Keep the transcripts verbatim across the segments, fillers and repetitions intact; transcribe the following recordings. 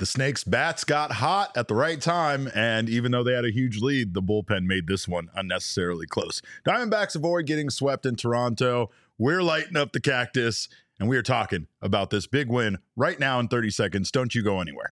The Snakes bats got hot at the right time, and even though they had a huge lead, the bullpen made this one unnecessarily close. Diamondbacks avoid getting swept in Toronto. We're lighting up the cactus, and we are talking about this big win right now in thirty seconds. Don't you go anywhere.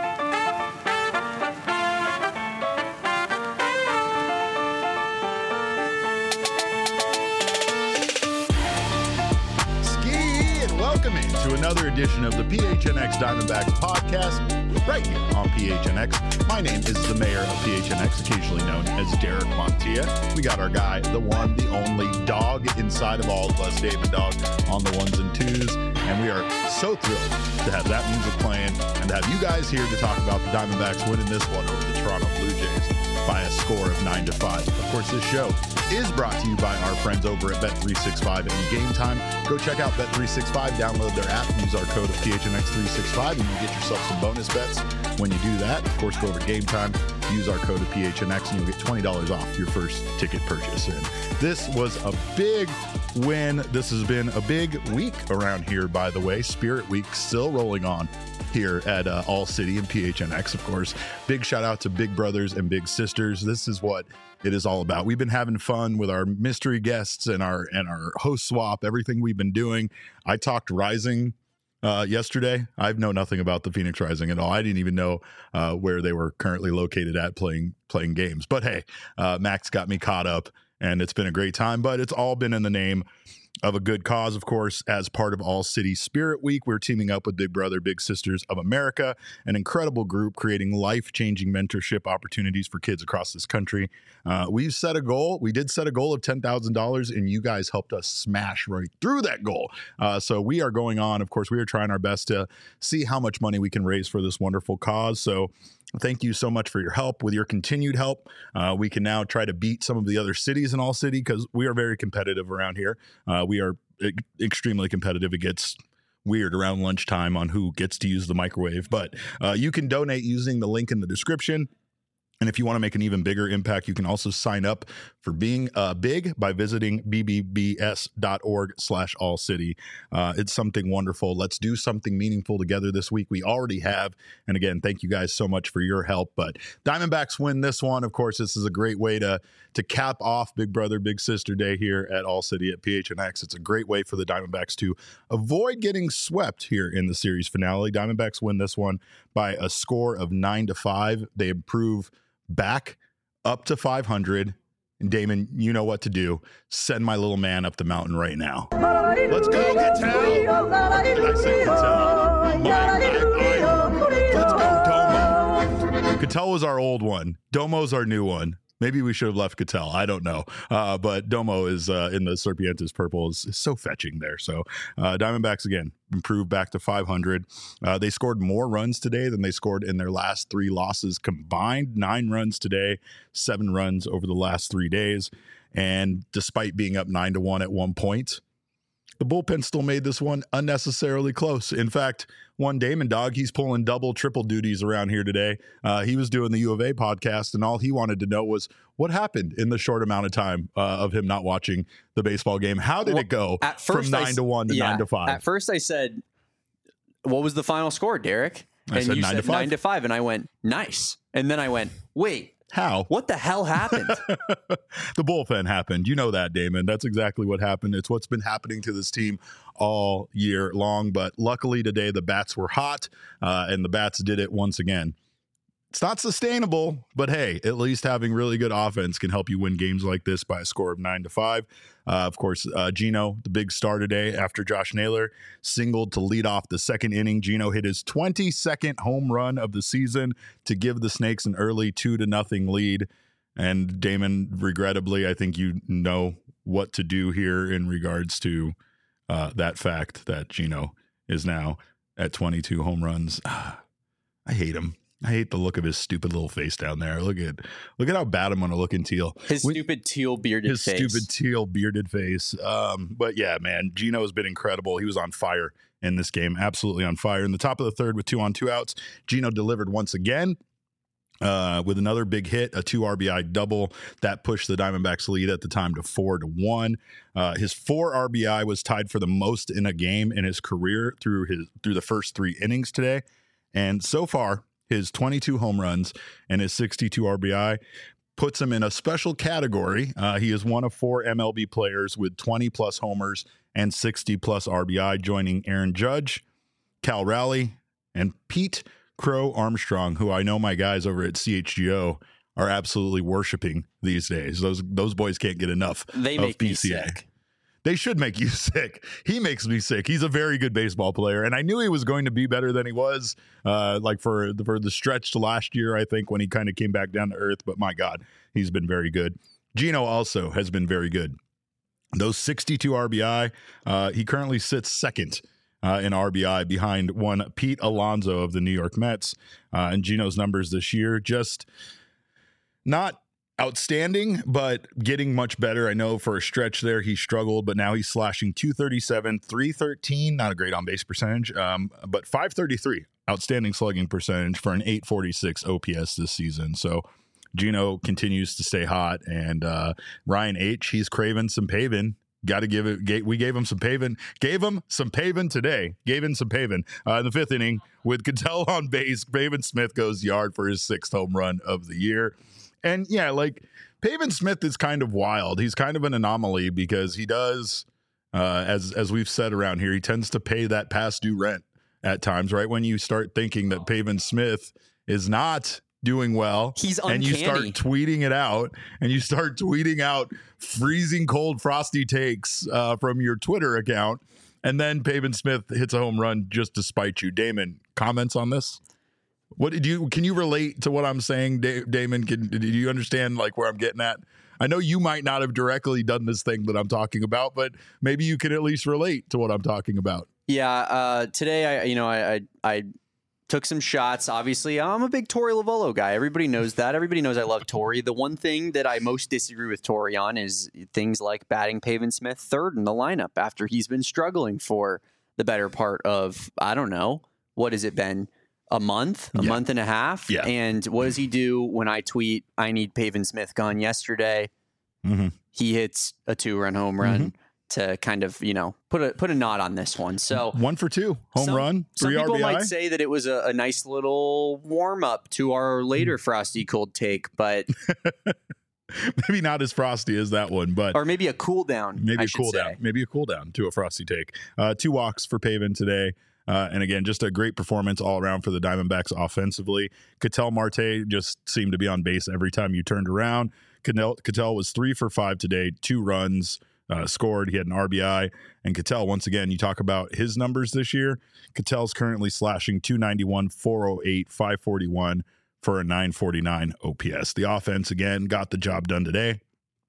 Welcome to another edition of the P H N X Diamondbacks podcast, right here on P H N X. My name is the mayor of P H N X, occasionally known as Derek Montilla. We got our guy, the one, the only dog inside of all of us, David Dog, on the ones and twos. And we are so thrilled to have that music playing and to have you guys here to talk about the Diamondbacks winning this one over the Toronto Blue Jays by a score of nine to five. Of course, this show is brought to you by our friends over at Bet three sixty-five and Game Time. Go check out Bet three sixty-five, download their app, use our code of P H N X three sixty-five, and you get yourself some bonus bets when you do that. Of course, go over to Game Time, use our code of P H N X, and you'll get twenty dollars off your first ticket purchase. And this was a big win. This has been a big week around here, by the way. Spirit Week still rolling on here at uh, All City and P H N X, of course. Big shout out to Big Brothers and Big Sisters. This is what it is all about. We've been having fun with our mystery guests and our and our host swap, everything we've been doing. I talked Rising uh, yesterday. I know nothing about the Phoenix Rising at all. I didn't even know uh, where they were currently located at playing playing games. But hey, uh, Max got me caught up, and it's been a great time. But it's all been in the name of a good cause, of course. As part of All City Spirit Week, we're teaming up with Big Brother, Big Sisters of America, an incredible group creating life-changing mentorship opportunities for kids across this country. Uh, we've set a goal. We did set a goal of ten thousand dollars, and you guys helped us smash right through that goal. Uh, so we are going on. Of course, we are trying our best to see how much money we can raise for this wonderful cause. So thank you so much for your help. With your continued help, uh, we can now try to beat some of the other cities in All City, because we are very competitive around here. Uh, we are e- extremely competitive. It gets weird around lunchtime on who gets to use the microwave, but uh, you can donate using the link in the description. And if you want to make an even bigger impact, you can also sign up for being uh, big by visiting b b b s dot org slash all city. Uh, it's something wonderful. Let's do something meaningful together this week. We already have. And again, thank you guys so much for your help. But Diamondbacks win this one. Of course, this is a great way to, to cap off Big Brother, Big Sister Day here at All City at P H N X. It's a great way for the Diamondbacks to avoid getting swept here in the series finale. Diamondbacks win this one by a score of nine to five. They improve back up to five hundred. And Damon, you know what to do. Send my little man up the mountain right now. Let's go, Ketel. What did I say, Ketel? My, I, I, let's go, Domo. Ketel was our old one. Domo's our new one. Maybe we should have left Ketel. I don't know. Uh, but Domo is uh, in the Serpientes purple is, is so fetching there. So uh, Diamondbacks, again, improved back to five hundred. Uh, they scored more runs today than they scored in their last three losses combined. Nine runs today, seven runs over the last three days. And despite being up nine to one at one point, the bullpen still made this one unnecessarily close. In fact, one Damon Dog, he's pulling double, triple duties around here today. Uh, he was doing the U of A podcast, and all he wanted to know was what happened in the short amount of time uh, of him not watching the baseball game. How did well, it go at first from nine I, to one to yeah, nine to five? At first I said, what was the final score, Derek? I and said you nine said to five. nine to five, and I went, nice. And then I went, wait. How? What the hell happened? The bullpen happened. You know that, Damon. That's exactly what happened. It's what's been happening to this team all year long. But luckily today, the bats were hot, uh, and the bats did it once again. It's not sustainable, but hey, at least having really good offense can help you win games like this by a score of nine to five. Uh, of course, uh, Gino, the big star today after Josh Naylor singled to lead off the second inning. Gino hit his twenty-second home run of the season to give the Snakes an early two to nothing lead. And Damon, regrettably, I think you know what to do here in regards to uh, that fact that Gino is now at twenty-two home runs. I hate him. I hate the look of his stupid little face down there. Look at look at how bad I'm going to look in teal. His we, stupid teal bearded his face. His stupid teal bearded face. Um, but yeah, man, Gino has been incredible. He was on fire in this game. Absolutely on fire. In the top of the third with two on, two outs, Gino delivered once again. Uh, with another big hit, a two R B I double that pushed the Diamondbacks lead at the time to four to one. Uh, his four R B I was tied for the most in a game in his career through his through the first three innings today. And so far, his twenty-two home runs and his sixty-two R B I puts him in a special category. Uh, he is one of four M L B players with twenty plus homers and sixty plus R B I, joining Aaron Judge, Cal Raleigh, and Pete Crow Armstrong, who I know my guys over at C H G O are absolutely worshiping these days. Those those boys can't get enough they of make P me C A. sick. They should make you sick. He makes me sick. He's a very good baseball player, and I knew he was going to be better than he was, uh, like for the, for the stretch to last year, I think, when he kind of came back down to earth. But my God, he's been very good. Gino also has been very good. Those sixty-two R B I, uh, he currently sits second uh, in R B I behind one Pete Alonso of the New York Mets. Uh, and Gino's numbers this year, just not outstanding, but getting much better. I know for a stretch there he struggled, but now he's slashing two thirty-seven, three thirteen, not a great on base percentage, um, but five thirty-three, outstanding slugging percentage for an eight forty-six O P S this season. So Gino continues to stay hot, and uh, Ryan H, he's craving some Pavin. Got to give it. We gave him some Pavin. Gave him some Pavin today. Gave him some Pavin uh, in the fifth inning with Ketel on base. Pavin Smith goes yard for his sixth home run of the year. And yeah, like Pavin Smith is kind of wild. He's kind of an anomaly because he does, uh, as as we've said around here, he tends to pay that past due rent at times. Right when you start thinking that Pavin Smith is not doing well, he's uncanny. And you start tweeting it out, and you start tweeting out freezing cold, frosty takes uh, from your Twitter account, and then Pavin Smith hits a home run just to spite you. Damon, comments on this? What did you? Can you relate to what I'm saying, da- Damon? Can, do you understand like where I'm getting at? I know you might not have directly done this thing that I'm talking about, but maybe you can at least relate to what I'm talking about. Yeah. Uh, today, I you know I I. I took some shots. Obviously, I'm a big Torey Lovullo guy. Everybody knows that. Everybody knows I love Torey. The one thing that I most disagree with Torey on is things like batting Pavin Smith third in the lineup after he's been struggling for the better part of, I don't know, what has it been? A month, a yeah. month and a half. Yeah. And what does he do when I tweet, I need Pavin Smith gone yesterday? Mm-hmm. He hits a two-run home run. Mm-hmm. To kind of, you know, put a put a knot on this one. So one for two, home some, run, three some people R B I. might say that it was a, a nice little warm up to our later frosty cold take, but maybe not as frosty as that one, but or maybe a cool down. Maybe I a cool say. down. Maybe a cool down to a frosty take. Uh, two walks for Pavin today. Uh, and again, just a great performance all around for the Diamondbacks offensively. Ketel Marte just seemed to be on base every time you turned around. Ketel, Ketel was three for five today, two runs. Uh, scored. He had an R B I. And Ketel, once again, you talk about his numbers this year. Ketel's currently slashing two ninety-one, four oh eight, five forty-one for a nine forty-nine O P S. The offense, again, got the job done today.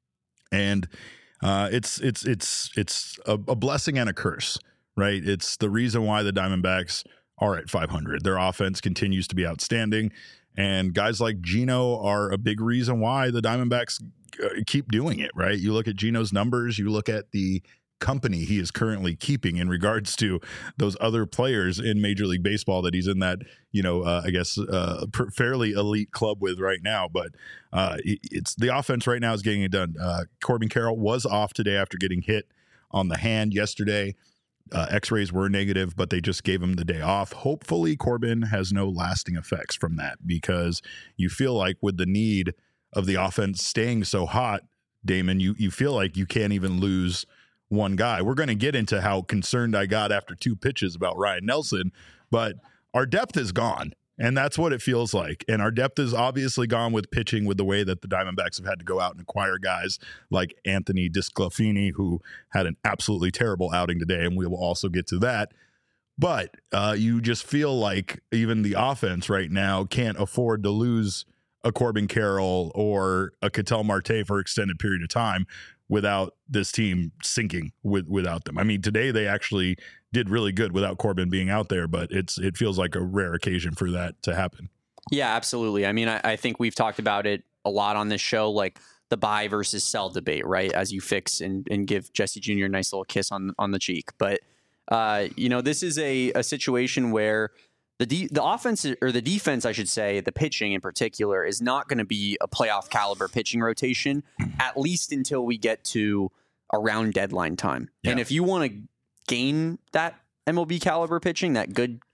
And uh, it's it's it's it's a, a blessing and a curse, right? It's the reason why the Diamondbacks are at five hundred. Their offense continues to be outstanding. And guys like Gino are a big reason why the Diamondbacks keep doing it, right? You look at Gino's numbers, you look at the company he is currently keeping in regards to those other players in Major League Baseball that he's in that, you know, uh, I guess uh, fairly elite club with right now. But uh, it's the offense right now is getting it done. Uh, Corbin Carroll was off today after getting hit on the hand yesterday. Uh, X-rays were negative, but they just gave him the day off. Hopefully Corbin has no lasting effects from that, because you feel like with the need of the offense staying so hot, Damon, you you feel like you can't even lose one guy. We're going to get into how concerned I got after two pitches about Ryan Nelson, but our depth is gone, and that's what it feels like. And our depth is obviously gone with pitching, with the way that the Diamondbacks have had to go out and acquire guys like Anthony Disclafini, who had an absolutely terrible outing today, and we will also get to that. But uh, you just feel like even the offense right now can't afford to lose a Corbin Carroll or a Ketel Marte for an extended period of time without this team sinking with without them. I mean, today they actually did really good without Corbin being out there, but it's it feels like a rare occasion for that to happen. Yeah, absolutely. I mean, I, I think we've talked about it a lot on this show, like the buy versus sell debate, right? As you fix and, and give Jesse Junior a nice little kiss on on the cheek. But, uh, you know, this is a, a situation where The de- the offense, or the defense, I should say, the pitching in particular, is not going to be a playoff caliber pitching rotation, at least until we get to around deadline time. Yeah. And if you want to gain that M L B caliber pitching, that good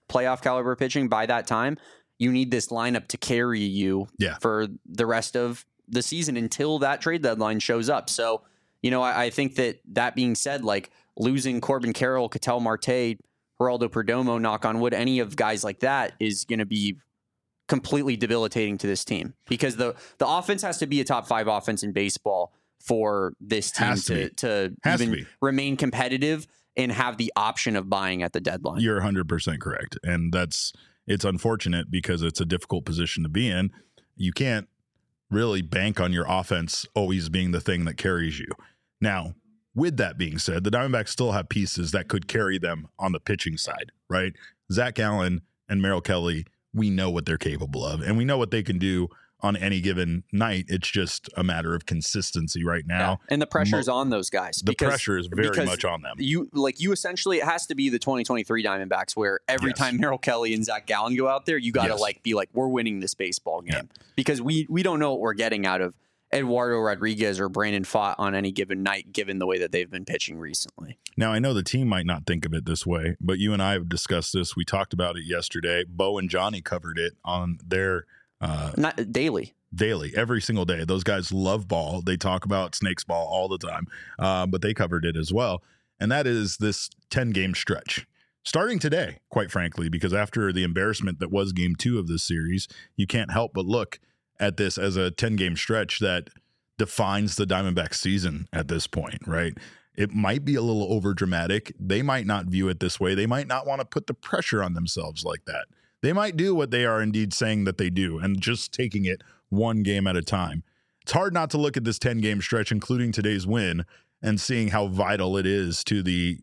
playoff caliber pitching by that time, you need this lineup to carry you yeah. for the rest of the season until that trade deadline shows up. So, you know, I, I think that that being said, like losing Corbin Carroll, Ketel Marte, Geraldo Perdomo, knock on wood, any of guys like that is going to be completely debilitating to this team, because the the offense has to be a top five offense in baseball for this team Has to to, to Has even to be. remain competitive and have the option of buying at the deadline. You're one hundred percent correct. And that's, it's unfortunate because it's a difficult position to be in. You can't really bank on your offense always being the thing that carries you. Now, with that being said, the Diamondbacks still have pieces that could carry them on the pitching side, right? Zach Allen and Merrill Kelly, we know what they're capable of, and we know what they can do on any given night. It's just a matter of consistency right now. Yeah. And the pressure's Mo- on those guys. The because, pressure is very much on them. You like you essentially, it has to be the twenty twenty-three Diamondbacks where every yes. time Merrill Kelly and Zach Gallen go out there, you got to yes. like be like, we're winning this baseball game, yeah. because we we don't know what we're getting out of Eduardo Rodriguez or Brandon Pfaadt on any given night, given the way that they've been pitching recently. Now, I know the team might not think of it this way, but you and I have discussed this. We talked about it yesterday. Bo and Johnny covered it on their uh, not daily. Daily, every single day. Those guys love ball. They talk about Snakes ball all the time, uh, but they covered it as well. And that is this ten-game stretch. Starting today, quite frankly, because after the embarrassment that was game two of this series, you can't help but look at this as a ten-game stretch that defines the Diamondbacks season at this point, right? It might be a little over dramatic. They might not view it this way. They might not want to put the pressure on themselves like that. They might do what they are indeed saying that they do and just taking it one game at a time. It's hard not to look at this ten-game stretch, including today's win, and seeing how vital it is to the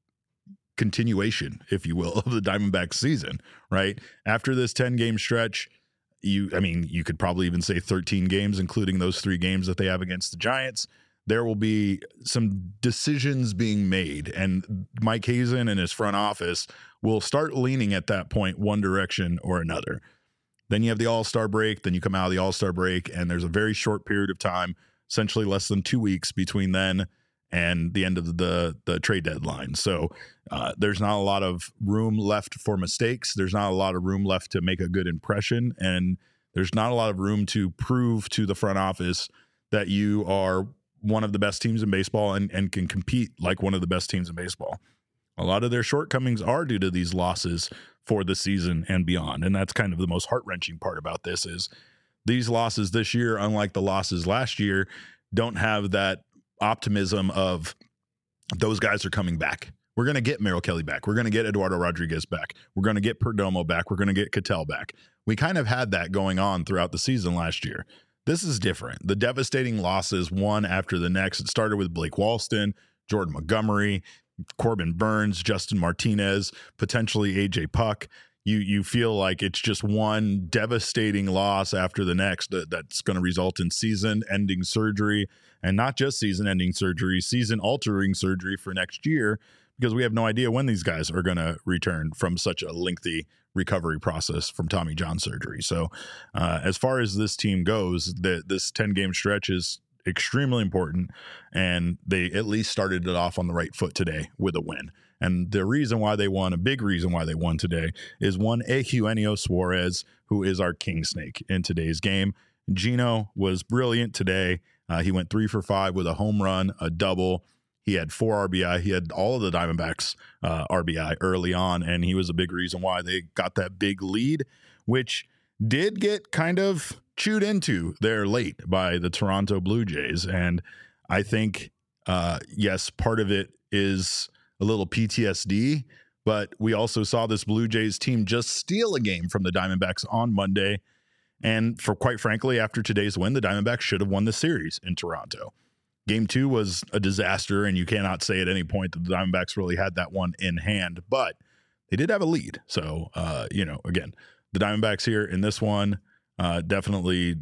continuation, if you will, of the Diamondbacks season, right? After this ten-game stretch, you, I mean, you could probably even say thirteen games, including those three games that they have against the Giants. There will be some decisions being made, and Mike Hazen and his front office will start leaning at that point one direction or another. Then you have the All-Star break. Then you come out of the All-Star break, and there's a very short period of time, essentially less than two weeks between then and the end of the, the trade deadline. So uh, there's not a lot of room left for mistakes. There's not a lot of room left to make a good impression, and there's not a lot of room to prove to the front office that you are one of the best teams in baseball and, and can compete like one of the best teams in baseball. A lot of their shortcomings are due to these losses for the season and beyond. And that's kind of the most heart-wrenching part about this is these losses this year, unlike the losses last year, don't have that optimism of those guys are coming back. We're going to get Merrill Kelly back. We're going to get Eduardo Rodriguez back. We're going to get Perdomo back. We're going to get Ketel back. We kind of had that going on throughout the season last year. This is different. The devastating losses, one after the next. It started with Blake Walston, Jordan Montgomery, Corbin Burns, Justin Martinez, potentially A J Puck. You you feel like it's just one devastating loss after the next that, that's going to result in season-ending surgery, and not just season-ending surgery, season-altering surgery for next year, because we have no idea when these guys are going to return from such a lengthy recovery process from Tommy John surgery. So uh, as far as this team goes, the, this ten-game stretch is extremely important, and they at least started it off on the right foot today with a win. And the reason why they won, a big reason why they won today, is one Eugenio Suarez, who is our king snake in today's game. Gino was brilliant today. Uh, he went three for five with a home run, a double. He had four R B I. He had all of the Diamondbacks uh, R B I early on, and he was a big reason why they got that big lead, which did get kind of chewed into there late by the Toronto Blue Jays. And I think, uh, yes, part of it is a little P T S D, but we also saw this Blue Jays team just steal a game from the Diamondbacks on Monday. And for quite frankly, after today's win, the Diamondbacks should have won the series in Toronto. Game two was a disaster, and you cannot say at any point that the Diamondbacks really had that one in hand, but they did have a lead. So, uh, you know, again, the Diamondbacks here in this one uh, definitely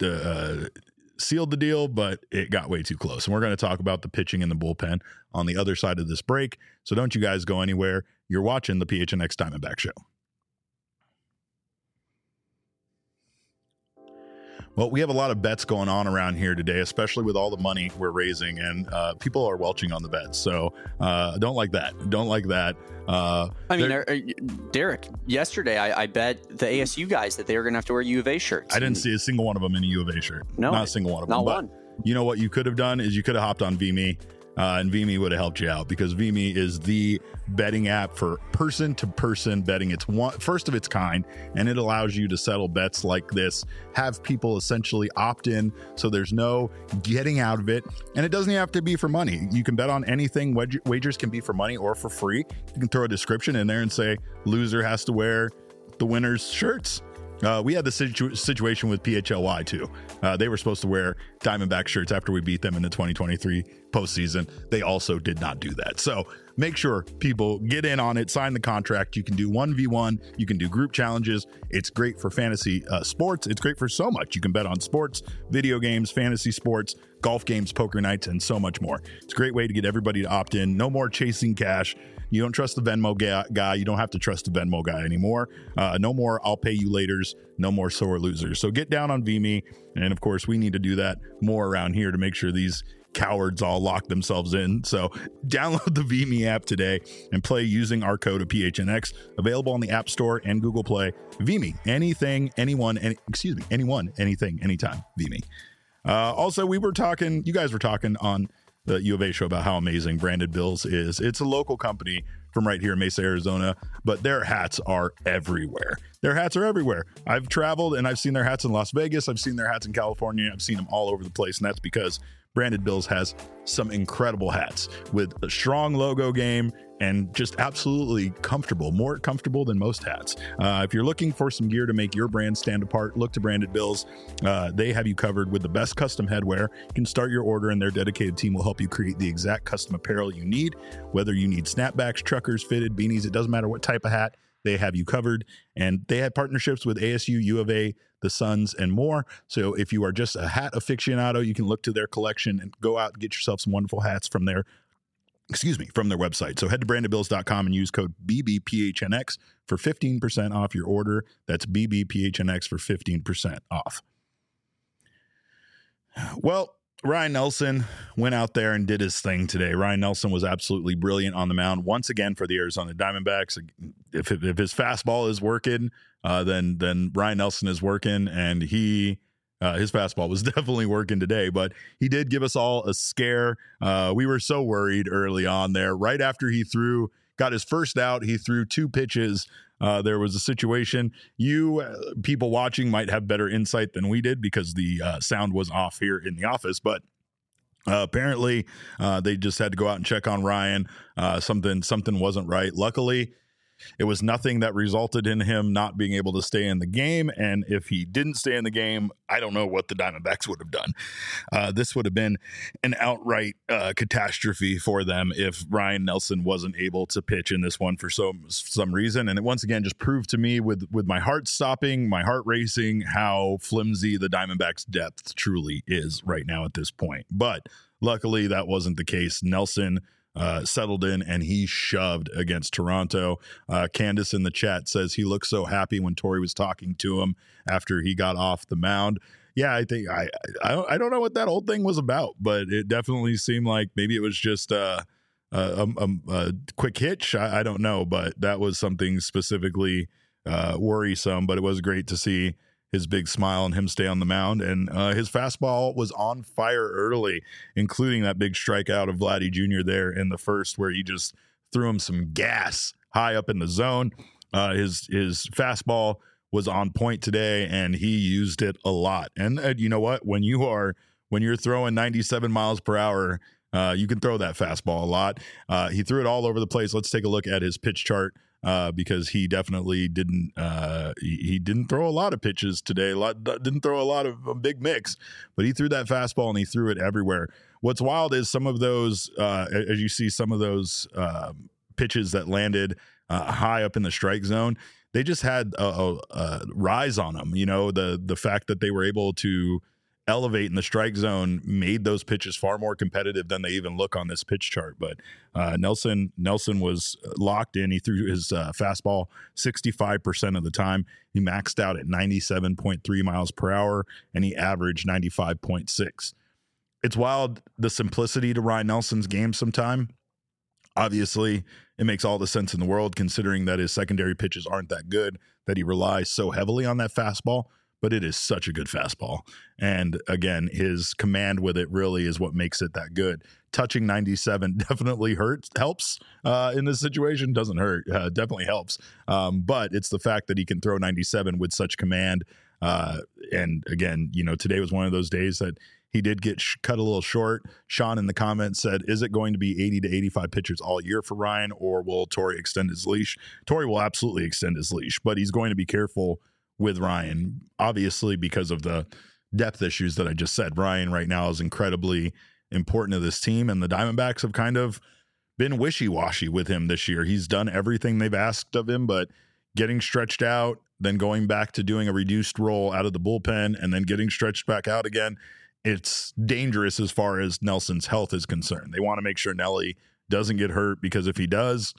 uh, sealed the deal, but it got way too close. And we're going to talk about the pitching and the bullpen on the other side of this break. So don't you guys go anywhere. You're watching the P H N X Diamondback Show. Well, we have a lot of bets going on around here today, especially with all the money we're raising, and uh, people are welching on the bets. So uh, don't like that. Don't like that. Uh, I mean, are, are, Derek, yesterday I, I bet the A S U guys that they were going to have to wear U of A shirts. I didn't see a single one of them in a U of A shirt. No, not a single one of them. Not but one. You know what you could have done is you could have hopped on VMe. Uh, and VMe would have helped you out, because VMe is the betting app for person-to-person betting. It's one first of its kind, and it allows you to settle bets like this, have people essentially opt in, so there's no getting out of it, and it doesn't even have to be for money. You can bet on anything. Wag- wagers can be for money or for free. You can throw a description in there and say, loser has to wear the winner's shirts. Uh, we had the situ- situation with P H L Y too. Uh, they were supposed to wear Diamondback shirts after we beat them in the twenty twenty-three postseason. They also did not do that. So make sure people get in on it, sign the contract. You can do one v one. You can do group challenges. It's great for fantasy uh, sports. It's great for so much. You can bet on sports, video games, fantasy sports, golf games, poker nights, and so much more. It's a great way to get everybody to opt in. No more chasing cash. You don't trust the Venmo guy. You don't have to trust the Venmo guy anymore. Uh, no more I'll pay you laters. No more sore losers. So get down on VMe. And of course, we need to do that more around here to make sure these cowards all lock themselves in. So download the VMe app today and play using our code of P H N X. Available on the App Store and Google Play. VMe, anything, anyone, any, excuse me, anyone, anything, anytime. VMe. Uh, also, we were talking, you guys were talking on the U of A show about how amazing Branded Bills is. It's a local company from right here in Mesa, Arizona, but their hats are everywhere. Their hats are everywhere. I've traveled and I've seen their hats in Las Vegas. I've seen their hats in California. I've seen them all over the place. And that's because Branded Bills has some incredible hats with a strong logo game and just absolutely comfortable, more comfortable than most hats. Uh, if you're looking for some gear to make your brand stand apart, look to Branded Bills. Uh, they have you covered with the best custom headwear. You can start your order and their dedicated team will help you create the exact custom apparel you need. Whether you need snapbacks, truckers, fitted, beanies, it doesn't matter what type of hat, they have you covered. And they have partnerships with A S U, U of A, the Suns, and more. So if you are just a hat aficionado, you can look to their collection and go out and get yourself some wonderful hats from their excuse me, from their website. So head to branded bills dot com and use code B B P H N X for fifteen percent off your order. That's B B P H N X for fifteen percent off. Well, Ryan Nelson went out there and did his thing today. Ryan Nelson was absolutely brilliant on the mound once again for the Arizona Diamondbacks. If, if his fastball is working, uh, then then Ryan Nelson is working, and he Uh, his fastball was definitely working today, but he did give us all a scare. Uh, we were so worried early on there. Right after he threw, got his first out, he threw two pitches. Uh, there was a situation. You uh, people watching might have better insight than we did because the uh, sound was off here in the office, but Uh, apparently uh, they just had to go out and check on Ryan. Uh, something something wasn't right. Luckily, it was nothing that resulted in him not being able to stay in the game. And if he didn't stay in the game, I don't know what the Diamondbacks would have done. Uh, this would have been an outright uh, catastrophe for them if Ryan Nelson wasn't able to pitch in this one for some some reason. And it once again just proved to me with, with my heart stopping, my heart racing, how flimsy the Diamondbacks depth truly is right now at this point. But luckily that wasn't the case. Nelson Uh, settled in and he shoved against Toronto. Uh, Candace in the chat says he looked so happy when Torey was talking to him after he got off the mound. Yeah, I think I I don't, I don't know what that whole thing was about, but it definitely seemed like maybe it was just uh, a, a, a, a quick hitch. I, I don't know, but that was something specifically uh, worrisome. But it was great to see his big smile and him stay on the mound. And uh, his fastball was on fire early, including that big strikeout of Vladdy Junior there in the first, where he just threw him some gas high up in the zone. Uh, his his fastball was on point today, and he used it a lot. And uh, you know what? When you are when you're throwing ninety-seven miles per hour, uh, you can throw that fastball a lot. Uh, he threw it all over the place. Let's take a look at his pitch chart. Uh, because he definitely didn't uh, he, he didn't throw a lot of pitches today. A lot, didn't throw a lot of a big mix, but he threw that fastball and he threw it everywhere. What's wild is some of those, uh, as you see, some of those uh, pitches that landed uh, high up in the strike zone, they just had a, a, a rise on them. You know, the the fact that they were able to elevate in the strike zone made those pitches far more competitive than they even look on this pitch chart. But uh, Nelson Nelson was locked in. He threw his uh, fastball sixty-five percent of the time. He maxed out at ninety-seven point three miles per hour, and he averaged ninety-five point six. It's wild, the simplicity to Ryan Nelson's game sometime. Obviously, it makes all the sense in the world considering that his secondary pitches aren't that good, that he relies so heavily on that fastball. But it is such a good fastball. And again, his command with it really is what makes it that good. Touching ninety-seven definitely hurts, helps uh, in this situation. Doesn't hurt, uh, definitely helps. Um, but it's the fact that he can throw ninety-seven with such command. Uh, and again, you know, today was one of those days that he did get sh- cut a little short. Sean in the comments said, is it going to be eighty to eighty-five pitchers all year for Ryan, or will Torey extend his leash? Torey will absolutely extend his leash, but he's going to be careful with Ryan, obviously, because of the depth issues that I just said. Ryan right now is incredibly important to this team, and the Diamondbacks have kind of been wishy-washy with him this year. He's done everything they've asked of him, but getting stretched out, then going back to doing a reduced role out of the bullpen, and then getting stretched back out again, it's dangerous as far as Nelson's health is concerned. They want to make sure Nelly doesn't get hurt, because if he does,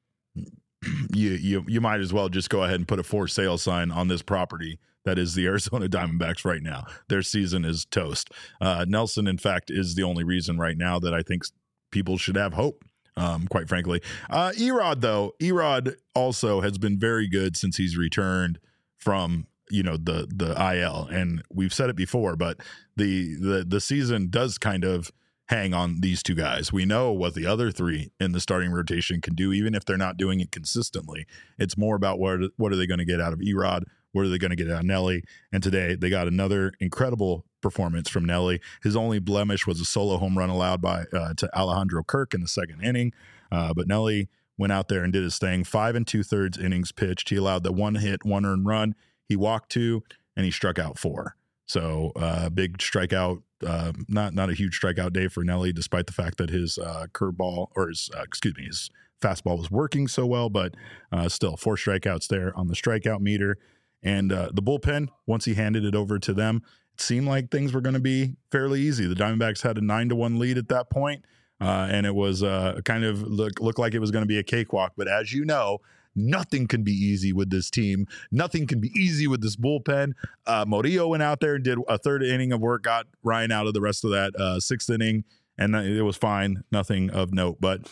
you you you might as well just go ahead and put a for sale sign on this property that is the Arizona Diamondbacks right now. Their season is toast. Uh, Nelson, in fact, is the only reason right now that I think people should have hope, um, quite frankly. Uh, Erod, though, Erod also has been very good since he's returned from, you know, the the I L. And we've said it before, but the the the season does kind of hang on these two guys. We know what the other three in the starting rotation can do, even if they're not doing it consistently. It's more about what are, what are they going to get out of Erod? What are they going to get out of Nelly? And today they got another incredible performance from Nelly. His only blemish was a solo home run allowed by uh, to Alejandro Kirk in the second inning. Uh, but Nelly went out there and did his thing. Five and two thirds innings pitched. He allowed the one hit, one earned run. He walked two, and he struck out four. So uh, big strikeout. Uh, not not a huge strikeout day for Nelly, despite the fact that his uh, curveball or his uh, excuse me his fastball was working so well. But uh, still, four strikeouts there on the strikeout meter. And uh, the bullpen, once he handed it over to them, it seemed like things were going to be fairly easy. The Diamondbacks had a nine to one lead at that point, uh, and it was uh, kind of look looked like it was going to be a cakewalk. But as you know, nothing can be easy with this team. Nothing can be easy with this bullpen. Uh, Murillo went out there and did a third inning of work, got Ryan out of the rest of that uh, sixth inning, and it was fine. Nothing of note. But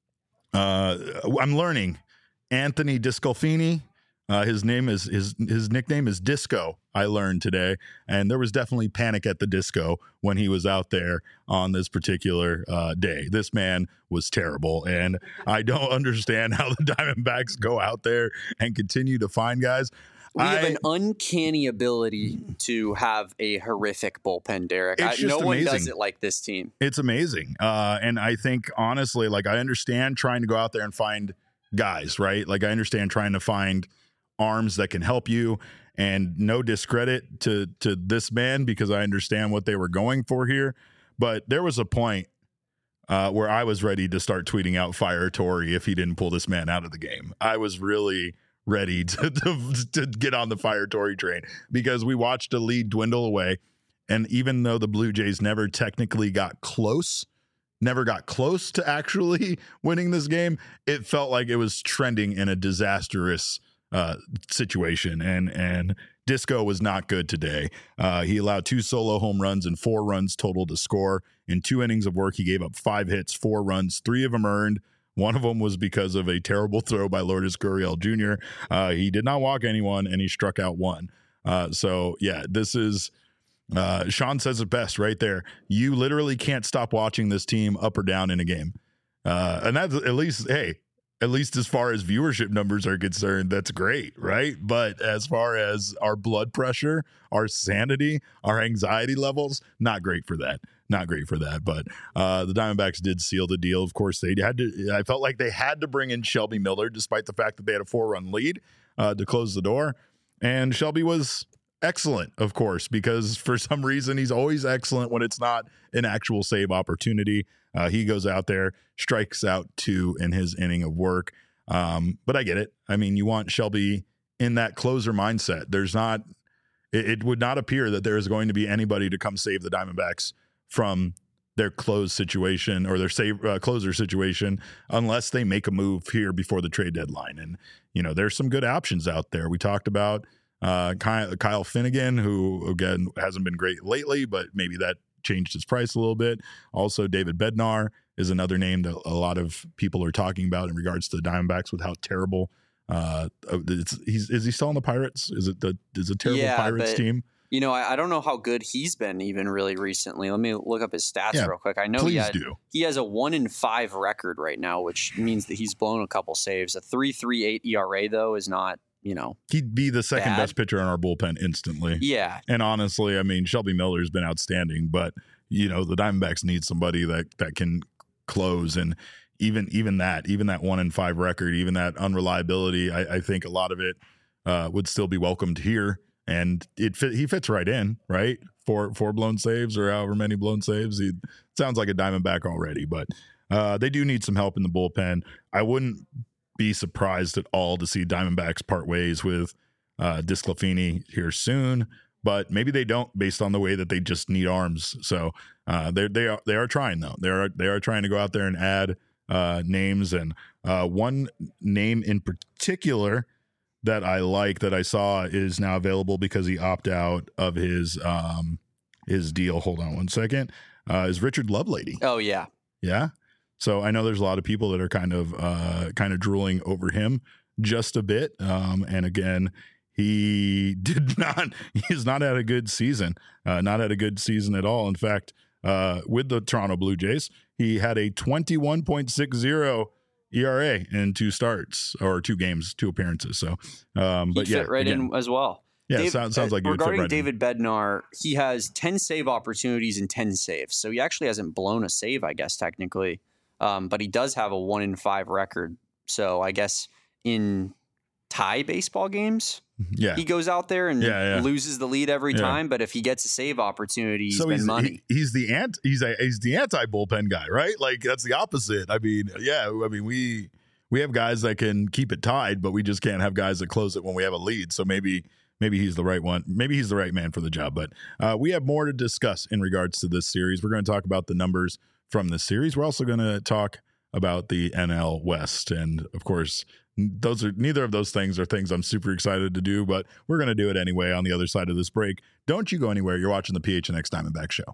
uh, I'm learning Anthony Discolfini. Uh, his name is his his nickname is Disco. I learned today, and there was definitely panic at the disco when he was out there on this particular uh, day. This man was terrible, and I don't understand how the Diamondbacks go out there and continue to find guys. We I, have an uncanny ability to have a horrific bullpen, Derek. It's I, just no amazing. one does it like this team. It's amazing, uh, and I think honestly, like I understand trying to go out there and find guys, right? Like I understand trying to find arms that can help you, and no discredit to to this man because I understand what they were going for here, but there was a point uh, where I was ready to start tweeting out fire Torey if he didn't pull this man out of the game. I was really ready to to, to get on the fire Torey train because we watched a lead dwindle away, and even though the Blue Jays never technically got close, never got close to actually winning this game, it felt like it was trending in a disastrous uh situation, and and Disco was not good today. Uh he allowed two solo home runs and four runs total to score. In two innings of work, he gave up five hits, four runs, three of them earned. One of them was because of a terrible throw by Lourdes Gurriel Junior Uh he did not walk anyone, and he struck out one. Uh so yeah, this is uh Sean says it best right there. You literally can't stop watching this team up or down in a game. Uh and that's at least, hey, at least as far as viewership numbers are concerned, that's great, right? But as far as our blood pressure, our sanity, our anxiety levels, not great for that. Not great for that. But uh, the Diamondbacks did seal the deal. Of course, they had to. I felt like they had to bring in Shelby Miller, despite the fact that they had a four-run lead uh, to close the door. And Shelby was excellent, of course, because for some reason he's always excellent when it's not an actual save opportunity. Uh, he goes out there, strikes out two in his inning of work. Um, but I get it. I mean, you want Shelby in that closer mindset. There's not it, it would not appear that there is going to be anybody to come save the Diamondbacks from their close situation or their save uh, closer situation unless they make a move here before the trade deadline. And, you know, there's some good options out there. We talked about uh, Kyle, Kyle Finnegan, who, again, hasn't been great lately, but maybe that changed his price a little bit. Also, David Bednar is another name that a lot of people are talking about in regards to the Diamondbacks with how terrible uh, it's, he's, is he still on the Pirates? Is it the, is a terrible yeah, Pirates but- team? You know, I, I don't know how good he's been even really recently. Let me look up his stats Yeah, real quick. I know please he, had, do. he has a one in five record right now, which means that he's blown a couple saves. A three point three eight E R A though is not, you know, He'd be the second bad. best pitcher in our bullpen instantly. Yeah. And honestly, I mean, Shelby Miller's been outstanding, but you know, the Diamondbacks need somebody that that can close. And even even that, even that one in five record, even that unreliability, I, I think a lot of it uh, would still be welcomed here. And it fit, he fits right in, right? Four four blown saves or however many blown saves. He sounds like a Diamondback already, but uh, they do need some help in the bullpen. I wouldn't be surprised at all to see Diamondbacks part ways with uh, Disclafini here soon, but maybe they don't, based on the way that they just need arms. So uh, they they are they are trying though. They are they are trying to go out there and add uh, names, and uh, one name in particular that I like that I saw is now available because he opted out of his um his deal. Hold on one second. Uh, is Richard Lovelady. Oh, yeah. Yeah. So I know there's a lot of people that are kind of uh kind of drooling over him just a bit. Um, and again, he did not he's not had a good season. Uh, not had a good season at all. In fact, uh, with the Toronto Blue Jays, he had a twenty-one point six oh E R A in two starts or two games, two appearances. So, um, but He'd yeah, fit right again, in as well. yeah, Dave, sounds, sounds like uh, you would fit regarding right David Bednar, he has ten save opportunities and ten saves, so he actually hasn't blown a save, I guess technically, um, but he does have a one in five record. So I guess in tie baseball games, in. Yeah, he goes out there and Yeah, yeah. loses the lead every Yeah. time. But if he gets a save opportunity, he's so been he's money. he- he's the ant he's a he's the anti bullpen guy, right? Like that's the opposite. I mean, yeah, I mean we we have guys that can keep it tied, but we just can't have guys that close it when we have a lead. So maybe maybe he's the right one. Maybe he's the right man for the job. But uh, we have more to discuss in regards to this series. We're going to talk about the numbers from this series. We're also going to talk about the N L West, and of course, those are neither of those things are things I'm super excited to do, but we're going to do it anyway on the other side of this break. Don't you go anywhere. You're watching the P H N X Diamondback Show.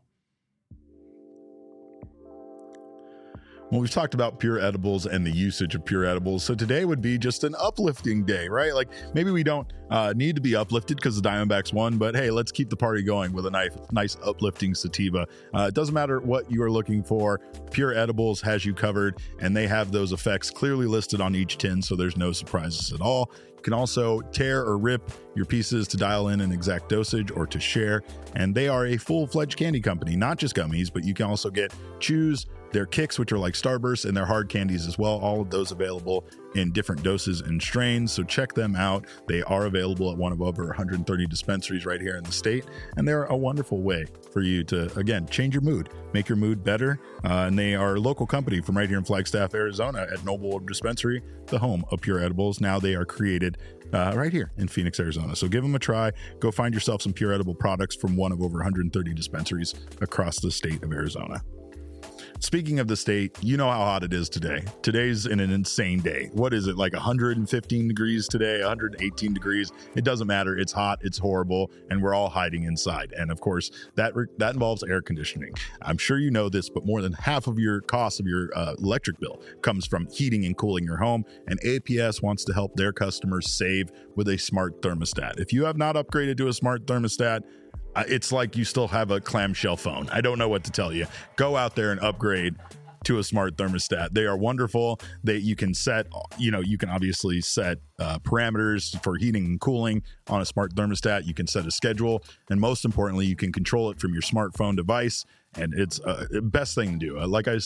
Well, we've talked about pure edibles and the usage of pure edibles. So today would be just an uplifting day, right? Like maybe we don't uh, need to be uplifted because the Diamondbacks won, but hey, let's keep the party going with a nice, nice uplifting sativa. Uh, it doesn't matter what you are looking for. Pure Edibles has you covered, and they have those effects clearly listed on each tin, so there's no surprises at all. You can also tear or rip your pieces to dial in an exact dosage or to share, and they are a full-fledged candy company, not just gummies, but you can also get chews, their kicks, which are like Starbursts, and their hard candies as well. All of those available in different doses and strains. So check them out. They are available at one of over one hundred thirty dispensaries right here in the state. And they're a wonderful way for you to, again, change your mood, make your mood better. Uh, and they are a local company from right here in Flagstaff, Arizona at Noble Dispensary, the home of Pure Edibles. Now they are created uh, right here in Phoenix, Arizona. So give them a try. Go find yourself some Pure Edible products from one of over one hundred thirty dispensaries across the state of Arizona. Speaking of the state, you know how hot it is today. Today's an, an insane day. What is it, like one hundred fifteen degrees today, one hundred eighteen degrees? It doesn't matter. It's hot, it's horrible, and we're all hiding inside. And of course, that re- that involves air conditioning. I'm sure you know this, but more than half of your cost of your uh, electric bill comes from heating and cooling your home. And A P S wants to help their customers save with a smart thermostat. If you have not upgraded to a smart thermostat, Uh, it's like you still have a clamshell phone. I don't know what to tell you. Go out there and upgrade to a smart thermostat. They are wonderful. They you can set, you know, you can obviously set uh, parameters for heating and cooling on a smart thermostat. You can set a schedule, and most importantly, you can control it from your smartphone device. And it's uh, the best thing to do. Uh, like I said,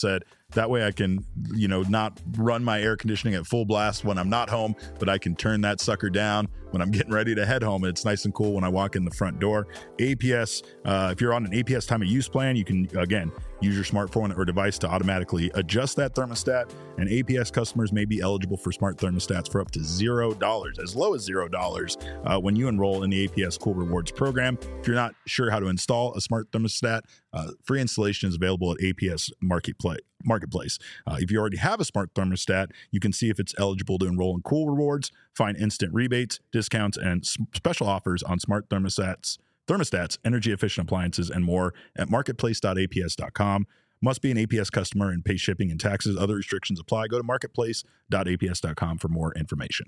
That way I can, you know, not run my air conditioning at full blast when I'm not home, but I can turn that sucker down when I'm getting ready to head home. It's nice and cool when I walk in the front door. A P S, uh, if you're on an A P S time of use plan, you can, again, use your smartphone or device to automatically adjust that thermostat, and A P S customers may be eligible for smart thermostats for up to zero dollars, as low as zero dollars uh, when you enroll in the A P S Cool Rewards program. If you're not sure how to install a smart thermostat, uh, free installation is available at A P S Marketplace. Marketplace. Uh, if you already have a smart thermostat, you can see if it's eligible to enroll in Cool Rewards, find instant rebates, discounts, and s- special offers on smart thermostats, thermostats, energy efficient appliances, and more at marketplace dot A P S dot com. Must be an A P S customer and pay shipping and taxes. Other restrictions apply. Go to marketplace dot A P S dot com for more information.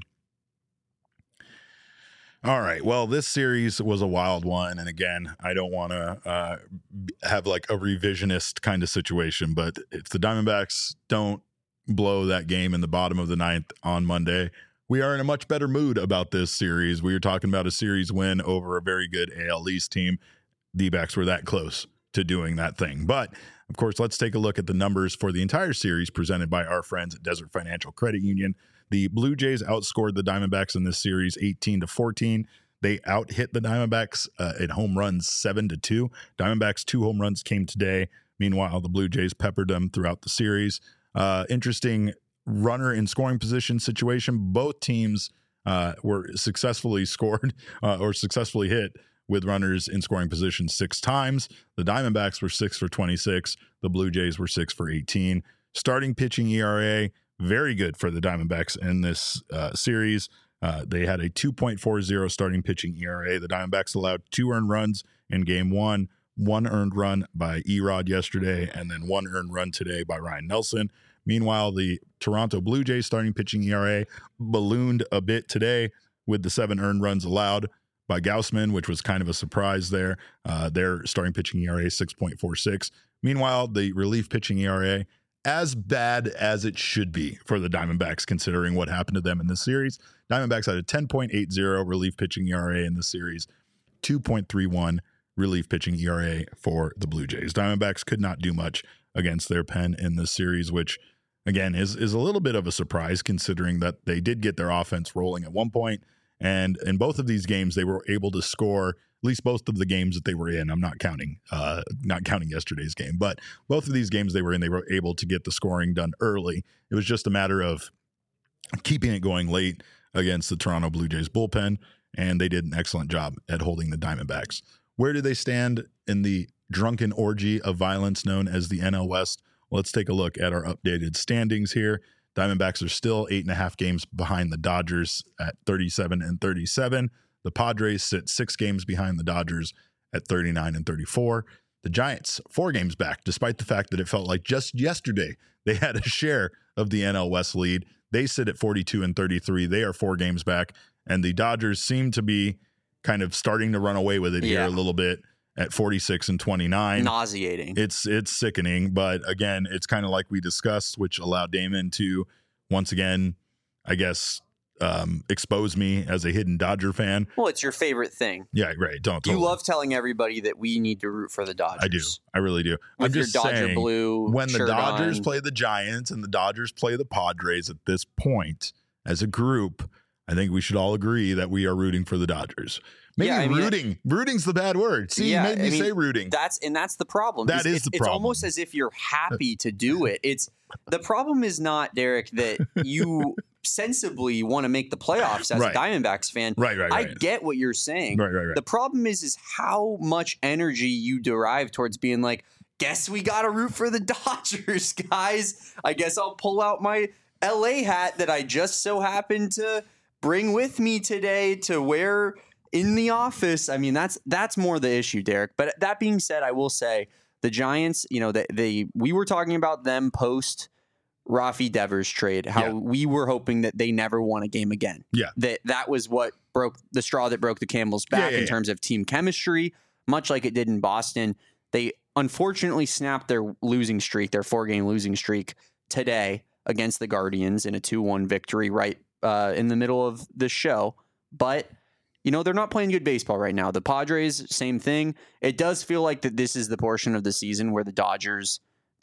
All right. Well, this series was a wild one. And again, I don't want to uh, have like a revisionist kind of situation, but if the Diamondbacks don't blow that game in the bottom of the ninth on Monday, we are in a much better mood about this series. We were talking about a series win over a very good A L East team. D-backs were that close to doing that thing. But of course, let's take a look at the numbers for the entire series presented by our friends at Desert Financial Credit Union. The Blue Jays outscored the Diamondbacks in this series eighteen to fourteen. They out-hit the Diamondbacks uh, in home runs seven to two. Diamondbacks' two home runs came today. Meanwhile, the Blue Jays peppered them throughout the series. Uh, interesting runner in scoring position situation. Both teams uh, were successfully scored uh, or successfully hit with runners in scoring position six times. The Diamondbacks were six for twenty-six. The Blue Jays were six for eighteen. Starting pitching E R A, very good for the Diamondbacks in this uh, series. Uh, they had a two point four oh starting pitching E R A. The Diamondbacks allowed two earned runs in game one, one earned run by Erod yesterday, and then one earned run today by Ryan Nelson. Meanwhile, the Toronto Blue Jays starting pitching E R A ballooned a bit today with the seven earned runs allowed by Gausman, which was kind of a surprise there. Uh, their starting pitching E R A six point four six. Meanwhile, the relief pitching E R A, as bad as it should be for the Diamondbacks, considering what happened to them in this series. Diamondbacks had a ten point eight oh relief pitching E R A in this series, two point three one relief pitching E R A for the Blue Jays. Diamondbacks could not do much against their pen in this series, which, again, is, is a little bit of a surprise considering that they did get their offense rolling at one point. And in both of these games, they were able to score, at least both of the games that they were in. I'm not counting, uh, not counting yesterday's game, but both of these games they were in, they were able to get the scoring done early. It was just a matter of keeping it going late against the Toronto Blue Jays bullpen, and they did an excellent job at holding the Diamondbacks. Where do they stand in the drunken orgy of violence known as the N L West? Let's take a look at our updated standings here. Diamondbacks are still eight and a half games behind the Dodgers at thirty-seven and thirty-seven. The Padres sit six games behind the Dodgers at thirty-nine and thirty-four. The Giants, four games back, despite the fact that it felt like just yesterday they had a share of the N L West lead. They sit at forty-two and thirty-three. They are four games back. And the Dodgers seem to be kind of starting to run away with it yeah. here a little bit at forty-six and twenty-nine. Nauseating. It's it's sickening. But again, it's kind of like we discussed, which allowed Damon to once again, I guess, um, expose me as a hidden Dodger fan. Well, it's your favorite thing. Yeah, right. Don't totally. You love telling everybody that we need to root for the Dodgers. I do. I really do. With I'm just your Dodger saying, blue when the Dodgers on. play the Giants and the Dodgers play the Padres at this point, as a group, I think we should all agree that we are rooting for the Dodgers. Maybe yeah, I mean, rooting. Rooting's the bad word. See, yeah, you made me I mean, say rooting. That's and that's the problem. That it's, is it's, the it's problem. almost as if you're happy to do it. It's the problem is not, Derek, that you sensibly want to make the playoffs as right. a Diamondbacks fan. Right, right, right. I get what you're saying. Right, right, right. The problem is is how much energy you derive towards being like, guess we got to root for the Dodgers, guys. I guess I'll pull out my L A hat that I just so happened to bring with me today to wear in the office. I mean, that's that's more the issue, Derek. But that being said, I will say the Giants, you know, they, they we were talking about them post Rafi Devers trade, how yeah. we were hoping that they never won a game again. Yeah. That that was what broke the straw that broke the camel's back yeah, yeah, in yeah. terms of team chemistry, much like it did in Boston. They unfortunately snapped their losing streak, their four-game losing streak today against the Guardians in a two one victory right uh, in the middle of the show. But you know, they're not playing good baseball right now. The Padres, same thing. It does feel like that this is the portion of the season where the Dodgers just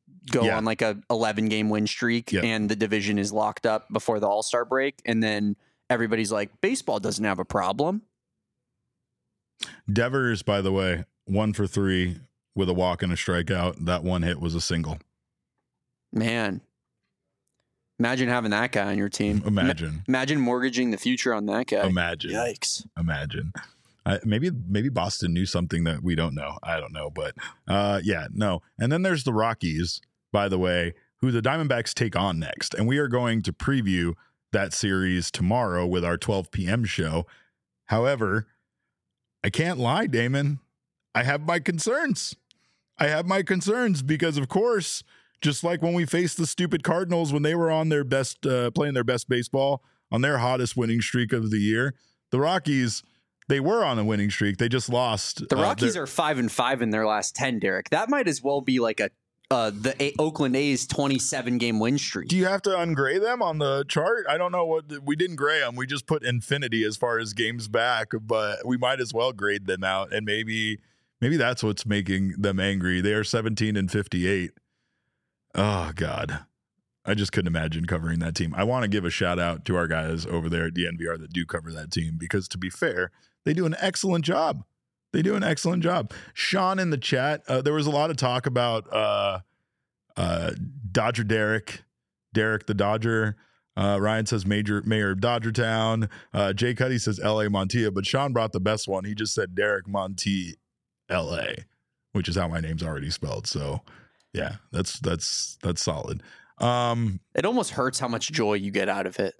go Yeah. on like a eleven game win streak Yep. and the division is locked up before the All-Star break. And then everybody's like, baseball doesn't have a problem. Devers, by the way, one for three with a walk and a strikeout. That one hit was a single. Man, imagine having that guy on your team. Imagine. Ma- imagine mortgaging the future on that guy. Imagine. Yikes. Imagine. Uh, maybe maybe Boston knew something that we don't know. I don't know. But uh, yeah, no. And then there's the Rockies, by the way, who the Diamondbacks take on next. And we are going to preview that series tomorrow with our twelve p.m. show. However, I can't lie, Damon. I have my concerns. I have my concerns because, of course, just like when we faced the stupid Cardinals when they were on their best, uh, playing their best baseball on their hottest winning streak of the year, the Rockies, they were on a winning streak. They just lost. The Rockies uh, are five and five in their last ten, Derek. That might as well be like a uh, the a- Oakland A's twenty-seven game win streak. Do you have to ungrade them on the chart? I don't know what we didn't grade them. We just put infinity as far as games back, but we might as well grade them out. And maybe, maybe that's what's making them angry. They are seventeen and fifty-eight. Oh God, I just couldn't imagine covering that team. I want to give a shout out to our guys over there at D N V R that do cover that team because, to be fair, they do an excellent job. They do an excellent job. Sean in the chat, uh, there was a lot of talk about uh, uh, Dodger Derek, Derek the Dodger. Uh, Ryan says Major Mayor of Dodgertown. Uh, Jay Cuddy says L A Montilla, but Sean brought the best one. He just said Derek Monti L A, which is how my name's already spelled. So yeah, that's that's that's solid. Um, It almost hurts how much joy you get out of it.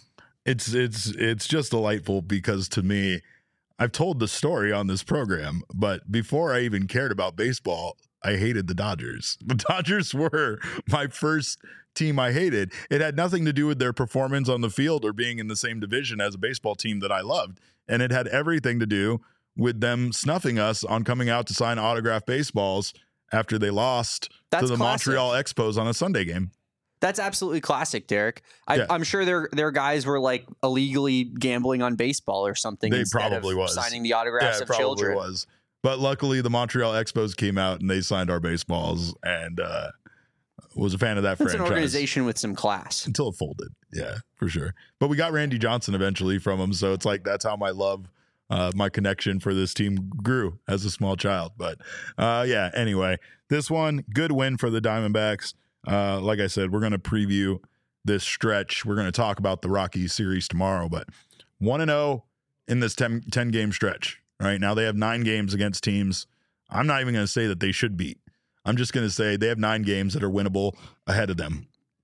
it's it's it's just delightful because to me, I've told the story on this program, but before I even cared about baseball, I hated the Dodgers. The Dodgers were my first team I hated. It had nothing to do with their performance on the field or being in the same division as a baseball team that I loved. And it had everything to do with them snuffing us on coming out to sign autographed baseballs after they lost That's to the classic. Montreal Expos on a Sunday game. That's absolutely classic, Derek. I, Yeah. I'm sure their their guys were like illegally gambling on baseball or something. They instead probably of was. signing the autographs Yeah, it of probably children. was. But luckily, the Montreal Expos came out and they signed our baseballs, and uh, was a fan of that It's franchise an organization with some class. until it folded. Yeah, for sure. But we got Randy Johnson eventually from him, so it's like that's how my love, uh, my connection for this team grew as a small child. But uh, yeah, anyway, this one good win for the Diamondbacks. Uh, like I said, we're going to preview this stretch. We're going to talk about the Rockies series tomorrow, but one and oh in this ten, ten game stretch. Right now they have nine games against teams I'm not even going to say that they should beat. I'm just going to say they have nine games that are winnable ahead of them.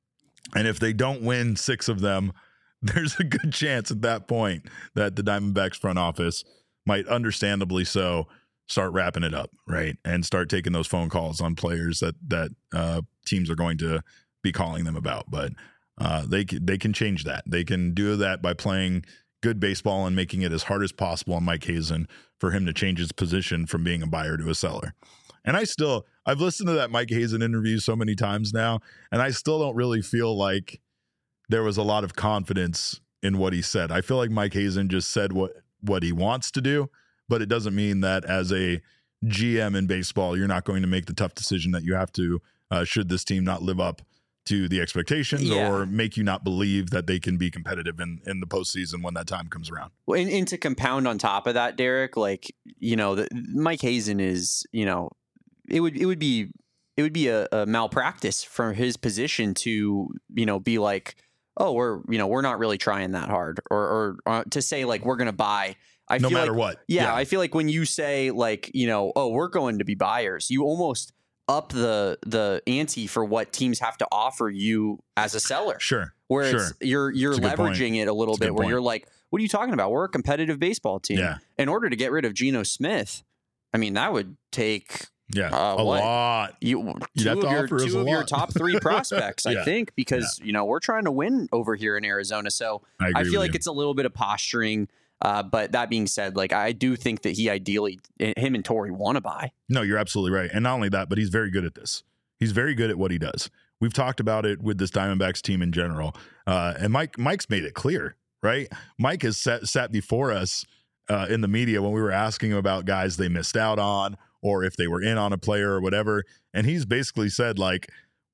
And if they don't win six of them, there's a good chance at that point that the Diamondbacks front office might, understandably so, start wrapping it up, right? And start taking those phone calls on players that that uh, teams are going to be calling them about. But uh, they they can change that. They can do that by playing good baseball and making it as hard as possible on Mike Hazen for him to change his position from being a buyer to a seller. And I still, I've listened to that Mike Hazen interview so many times now, and I still don't really feel like there was a lot of confidence in what he said. I feel like Mike Hazen just said what, what he wants to do, but it doesn't mean that as a G M in baseball, you're not going to make the tough decision that you have to, uh, should this team not live up to the expectations Yeah. or make you not believe that they can be competitive in, in the postseason when that time comes around. Well, and, and to compound on top of that, Derek, like, you know, the, Mike Hazen is, you know, it would, it would be, it would be a, a malpractice from his position to, you know, be like, oh, we're, you know, we're not really trying that hard, or, or uh, to say like, we're going to buy. I No feel matter like, what. Yeah, Yeah. I feel like when you say like, you know, oh, we're going to be buyers, you almost up the the ante for what teams have to offer you as a seller. Sure. Where sure. it's you're you're It's a good point. leveraging it a little It's a bit good where point. you're like, what are you talking about? We're a competitive baseball team. Yeah. In order to get rid of Geno Smith, I mean, that would take Yeah. uh, a what? lot. you You'd two have of to your offer us two a of your lot. top three prospects, I Yeah. think, because you know we're trying to win over here in Arizona. So I, agree I feel with like you. it's a little bit of posturing. Uh, but that being said, like I do think that he ideally, him and Torrey want to buy. No, you're absolutely right. And not only that, but he's very good at this. He's very good at what he does. We've talked about it with this Diamondbacks team in general. Uh, and Mike, Mike's made it clear, right? Mike has sat, sat before us uh, in the media when we were asking him about guys they missed out on or if they were in on a player or whatever. And he's basically said, like,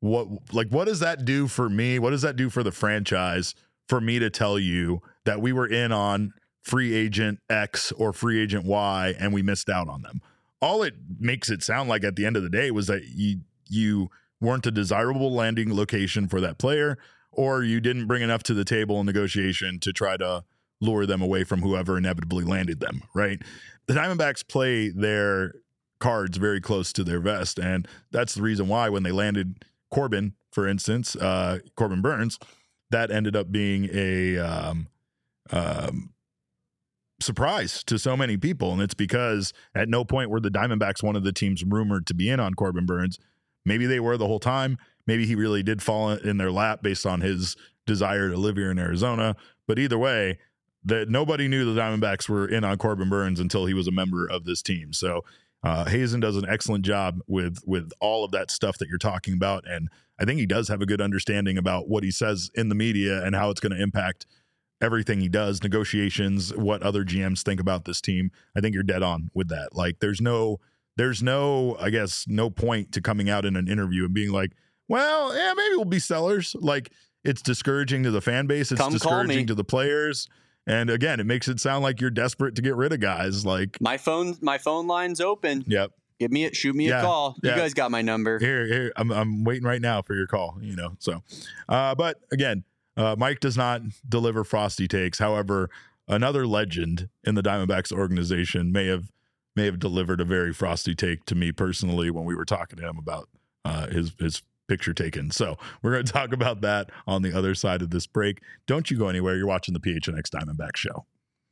what like what does that do for me? What does that do for the franchise for me to tell you that we were in on free agent X or free agent Y and we missed out on them? All it makes it sound like at the end of the day was that you you weren't a desirable landing location for that player, or you didn't bring enough to the table in negotiation to try to lure them away from whoever inevitably landed them, right? The Diamondbacks play their cards very close to their vest, and that's the reason why when they landed Corbin, for instance, uh, Corbin Burnes, that ended up being a um, um, surprise to so many people, and it's because at no point were the Diamondbacks one of the teams rumored to be in on Corbin Burnes. Maybe they were the whole time. Maybe he really did fall in their lap based on his desire to live here in Arizona. But either way, that nobody knew the Diamondbacks were in on Corbin Burnes until he was a member of this team. So uh, Hazen does an excellent job with with all of that stuff that you're talking about, and I think he does have a good understanding about what he says in the media and how it's going to impact everything he does, negotiations, what other G Ms think about this team. I think you're dead on with that. Like, there's no, there's no, I guess, no point to coming out in an interview and being like, well, yeah, maybe we'll be sellers. Like, it's discouraging to the fan base. It's Come discouraging to the players. And again, it makes it sound like you're desperate to get rid of guys. Like, my phone, my phone line's open. Yep. Give me it. Shoot me Yeah, a call. You yeah. guys got my number. Here, here, I'm, I'm waiting right now for your call, you know, so, uh, but again, uh, Mike does not deliver frosty takes. However, another legend in the Diamondbacks organization may have, may have delivered a very frosty take to me personally when we were talking to him about, uh, his, his picture taken. So we're going to talk about that on the other side of this break. Don't you go anywhere. You're watching the P H N X Diamondback Show.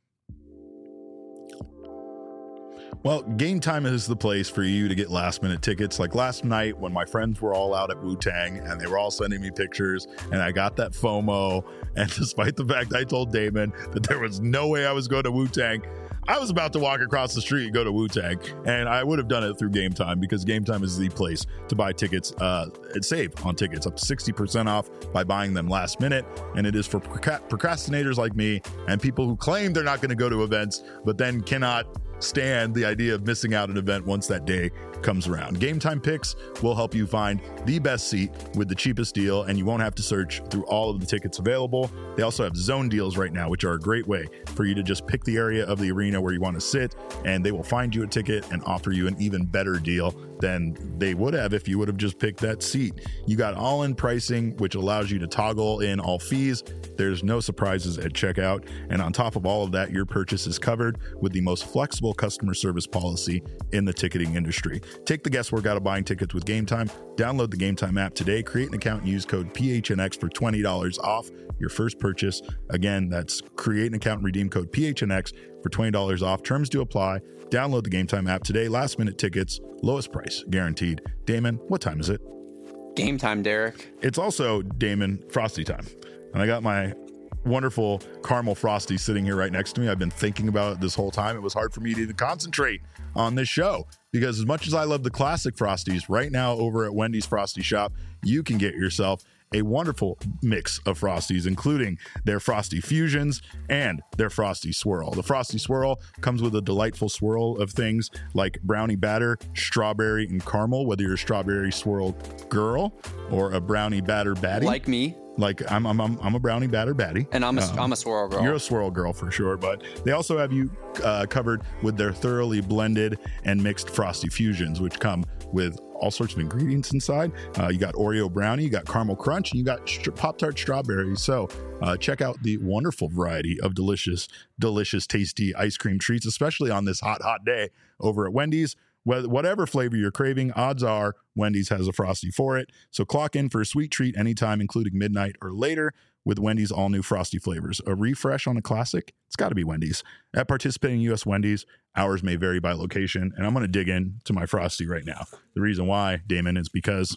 Well, Game Time is the place for you to get last minute tickets. Like last night when my friends were all out at Wu-Tang and they were all sending me pictures and I got that FOMO. And despite the fact I told Damon that there was no way I was going to Wu-Tang, I was about to walk across the street and go to Wu-Tang, and I would have done it through Game Time because Game Time is the place to buy tickets uh, and save on tickets up to sixty percent off by buying them last minute. And it is for procrastinators like me and people who claim they're not going to go to events, but then cannot stand the idea of missing out an event once that day comes around. Game Time Picks will help you find the best seat with the cheapest deal, and you won't have to search through all of the tickets available. They also have zone deals right now, which are a great way for you to just pick the area of the arena where you want to sit, and they will find you a ticket and offer you an even better deal than they would have if you would have just picked that seat. You got all-in pricing, which allows you to toggle in all fees. There's no surprises at checkout, and on top of all of that, your purchase is covered with the most flexible customer service policy in the ticketing industry. Take the guesswork out of buying tickets with Game Time. Download the Game Time app today, create an account, and use code P H N X for twenty dollars off your first purchase. Again, that's create an account and redeem code P H N X for twenty dollars off. Terms do apply. Download the Game Time app today. Last minute tickets, lowest price guaranteed. Damon, what time is it? Game time, Derek. It's also, Damon, Frosty time. And I got my wonderful caramel Frosty sitting here right next to me. I've been thinking about it this whole time. It was hard for me to even concentrate on this show because as much as I love the classic Frosties, right now over at Wendy's Frosty Shop, you can get yourself a wonderful mix of Frosties, including their Frosty Fusions and their Frosty Swirl. The Frosty Swirl comes with a delightful swirl of things like brownie batter, strawberry, and caramel, whether you're a strawberry swirl girl or a brownie batter baddie. Like me. Like I'm, I'm, I'm, I'm a brownie batter baddie, and I'm a, um, I'm a swirl girl. You're a swirl girl for sure, but they also have you uh, covered with their thoroughly blended and mixed Frosty Fusions, which come with all sorts of ingredients inside. Uh, you got Oreo brownie, you got caramel crunch, and you got st- Pop-Tart strawberries. So uh, check out the wonderful variety of delicious, delicious, tasty ice cream treats, especially on this hot, hot day over at Wendy's. Whatever flavor you're craving, odds are Wendy's has a Frosty for it. So clock in for a sweet treat anytime, including midnight or later, with Wendy's all-new Frosty flavors. A refresh on a classic? It's got to be Wendy's. At participating U S Wendy's, hours may vary by location, and I'm going to dig into my Frosty right now. The reason why, Damon, is because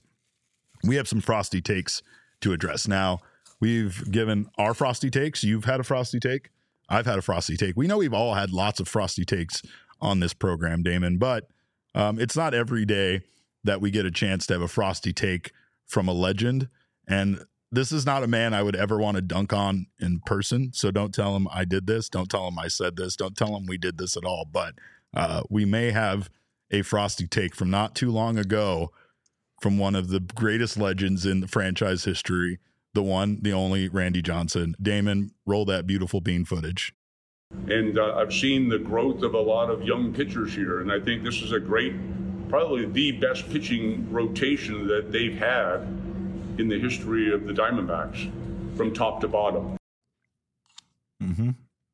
we have some Frosty takes to address. Now, we've given our Frosty takes. You've had a Frosty take. I've had a Frosty take. We know we've all had lots of Frosty takes on this program, Damon, but Um, it's not every day that we get a chance to have a Frosty take from a legend. And this is not a man I would ever want to dunk on in person. So don't tell him I did this. Don't tell him I said this. Don't tell him we did this at all. But uh, we may have a Frosty take from not too long ago from one of the greatest legends in the franchise history, the one, the only Randy Johnson. Damon, roll that beautiful bean footage. And uh, I've seen the growth of a lot of young pitchers here, and I think this is a great, probably the best pitching rotation that they've had in the history of the Diamondbacks, from top to bottom. Mm-hmm.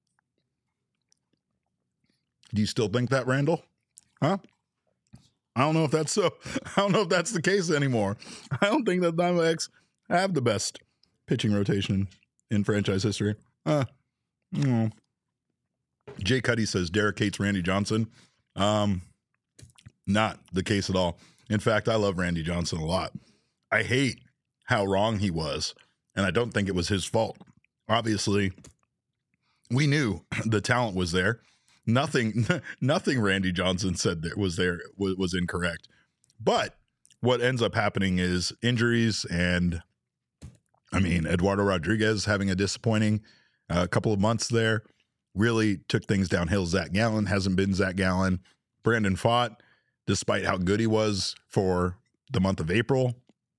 Do you still think that, Randall? Huh? I don't know if that's so. I don't know if that's the case anymore. I don't think that Diamondbacks have the best pitching rotation in franchise history. Uh, mm. Jay Cuddy says Derek hates Randy Johnson. Um, not the case at all. In fact, I love Randy Johnson a lot. I hate how wrong he was, and I don't think it was his fault. Obviously, we knew the talent was there. Nothing, nothing Randy Johnson said that was there was, was incorrect. But what ends up happening is injuries, and I mean, Eduardo Rodriguez having a disappointing uh, couple of months there really took things downhill. Zach Gallen hasn't been Zach Gallen. Brandon Pfaadt, despite how good he was for the month of April,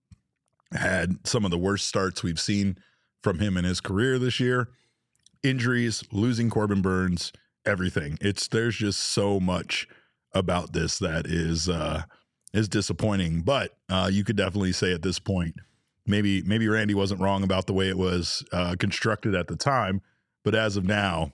had some of the worst starts we've seen from him in his career this year. Injuries, losing Corbin Burns, everything. It's there's just so much about this that is uh, is disappointing. But uh, you could definitely say at this point, maybe maybe Randy wasn't wrong about the way it was uh, constructed at the time. But as of now,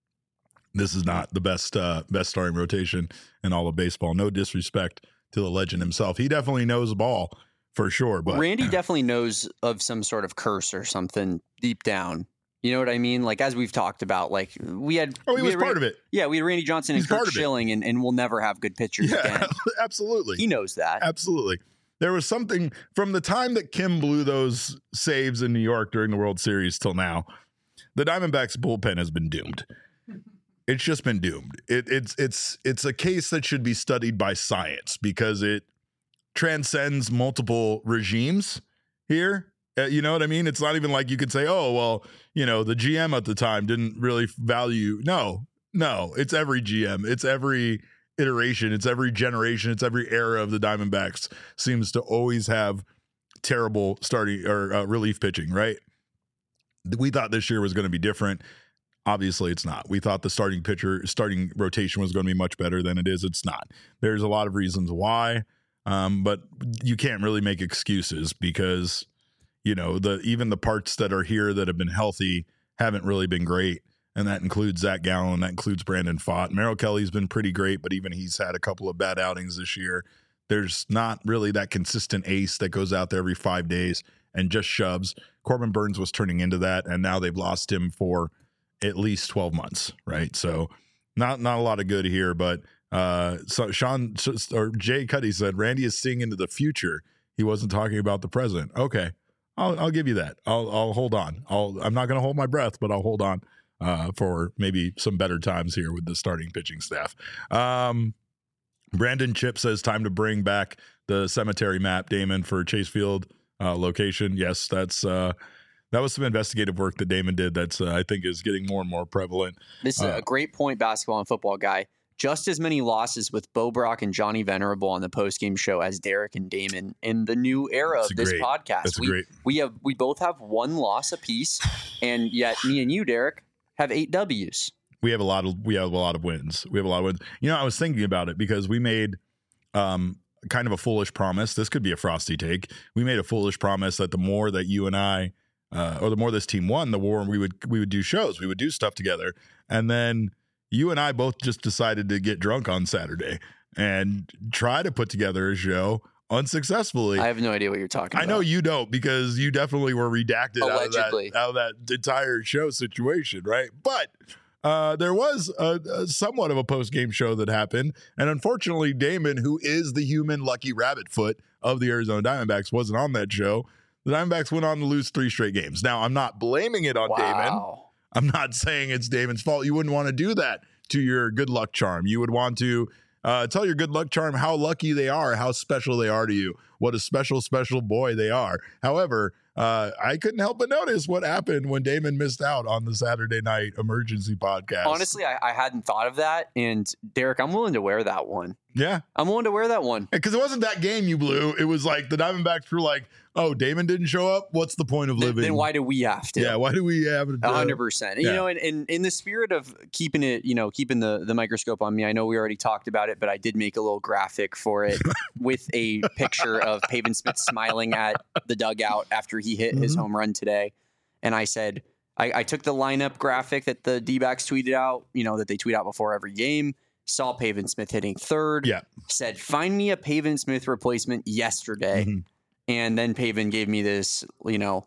this is not the best uh, best starting rotation in all of baseball. No disrespect to the legend himself. He definitely knows ball for sure. But Randy definitely knows of some sort of curse or something deep down. You know what I mean? Like, as we've talked about, like we had. Oh, he was part Randy, of it. Yeah, we had Randy Johnson He's and Kurt Schilling, and, and we'll never have good pitchers yeah, again. Absolutely. He knows that. Absolutely. There was something from the time that Kim blew those saves in New York during the World Series till now, the Diamondbacks bullpen has been doomed. It's just been doomed. It, it's it's it's a case that should be studied by science because it transcends multiple regimes here. Uh, you know what I mean? It's not even like you could say, oh, well, you know, the G M at the time didn't really value. No, no, it's every G M. It's every iteration. It's every generation. It's every era of the Diamondbacks seems to always have terrible starting or uh, relief pitching, right? We thought this year was going to be different. Obviously, it's not. We thought the starting pitcher, starting rotation was going to be much better than it is. It's not. There's a lot of reasons why, um, but you can't really make excuses because, you know, the even the parts that are here that have been healthy haven't really been great, and that includes Zach Gallen, that includes Brandon Pfaadt. Merrill Kelly's been pretty great, but even he's had a couple of bad outings this year. There's not really that consistent ace that goes out there every five days and just shoves. Corbin Burns was turning into that, and now they've lost him for at least twelve months, right? So not not a lot of good here, but uh, so Sean or Jay Cuddy said Randy is seeing into the future. He wasn't talking about the present. Okay, I'll I'll give you that. I'll I'll hold on. I'll I'm not going to hold my breath, but I'll hold on uh, for maybe some better times here with the starting pitching staff. Um, Brandon Chip says time to bring back the cemetery map, Damon, for Chase Field uh, location. Yes, that's. Uh, That was some investigative work that Damon did that's, uh, I think, is getting more and more prevalent. This is uh, a great point, basketball and football guy. Just as many losses with Bo Brock and Johnny Venerable on the postgame show as Derek and Damon in the new era of this great, podcast. That's we, great. we have we both have one loss apiece, and yet me and you, Derek, have eight W's. We have a lot of we have a lot of wins. We have a lot of wins. You know, I was thinking about it because we made um, kind of a foolish promise. This could be a frosty take. We made a foolish promise that the more that you and I Uh, or the more this team won, the more we would we would do shows, we would do stuff together, and then you and I both just decided to get drunk on Saturday and try to put together a show unsuccessfully. I have no idea what you're talking I about. know you don't because you definitely were redacted out of, that, out of that entire show situation, right? But uh, there was a, a somewhat of a post game show that happened, and unfortunately, Damon, who is the human Lucky Rabbit Foot of the Arizona Diamondbacks, wasn't on that show. The Diamondbacks went on to lose three straight games. Now, I'm not blaming it on wow. Damon. I'm not saying it's Damon's fault. You wouldn't want to do that to your good luck charm. You would want to uh, tell your good luck charm how lucky they are, how special they are to you, what a special, special boy they are. However, uh, I couldn't help but notice what happened when Damon missed out on the Saturday night emergency podcast. Honestly, I, I hadn't thought of that. And Derek, I'm willing to wear that one. Yeah. I'm willing to wear that one. Because it wasn't that game you blew. It was like the Diamondbacks were like, oh, Damon didn't show up? What's the point of living? Then why do we have to? Yeah, why do we have to? A hundred percent. You know, and in, in the spirit of keeping it, you know, keeping the, the microscope on me, I know we already talked about it, but I did make a little graphic for it with a picture of Pavin Smith smiling at the dugout after he hit mm-hmm. his home run today. And I said, I, I took the lineup graphic that the D-backs tweeted out, you know, that they tweet out before every game. Saw Pavin Smith hitting third. Yeah. Said, find me a Pavin Smith replacement yesterday. Mm-hmm. And then Pavin gave me this, you know,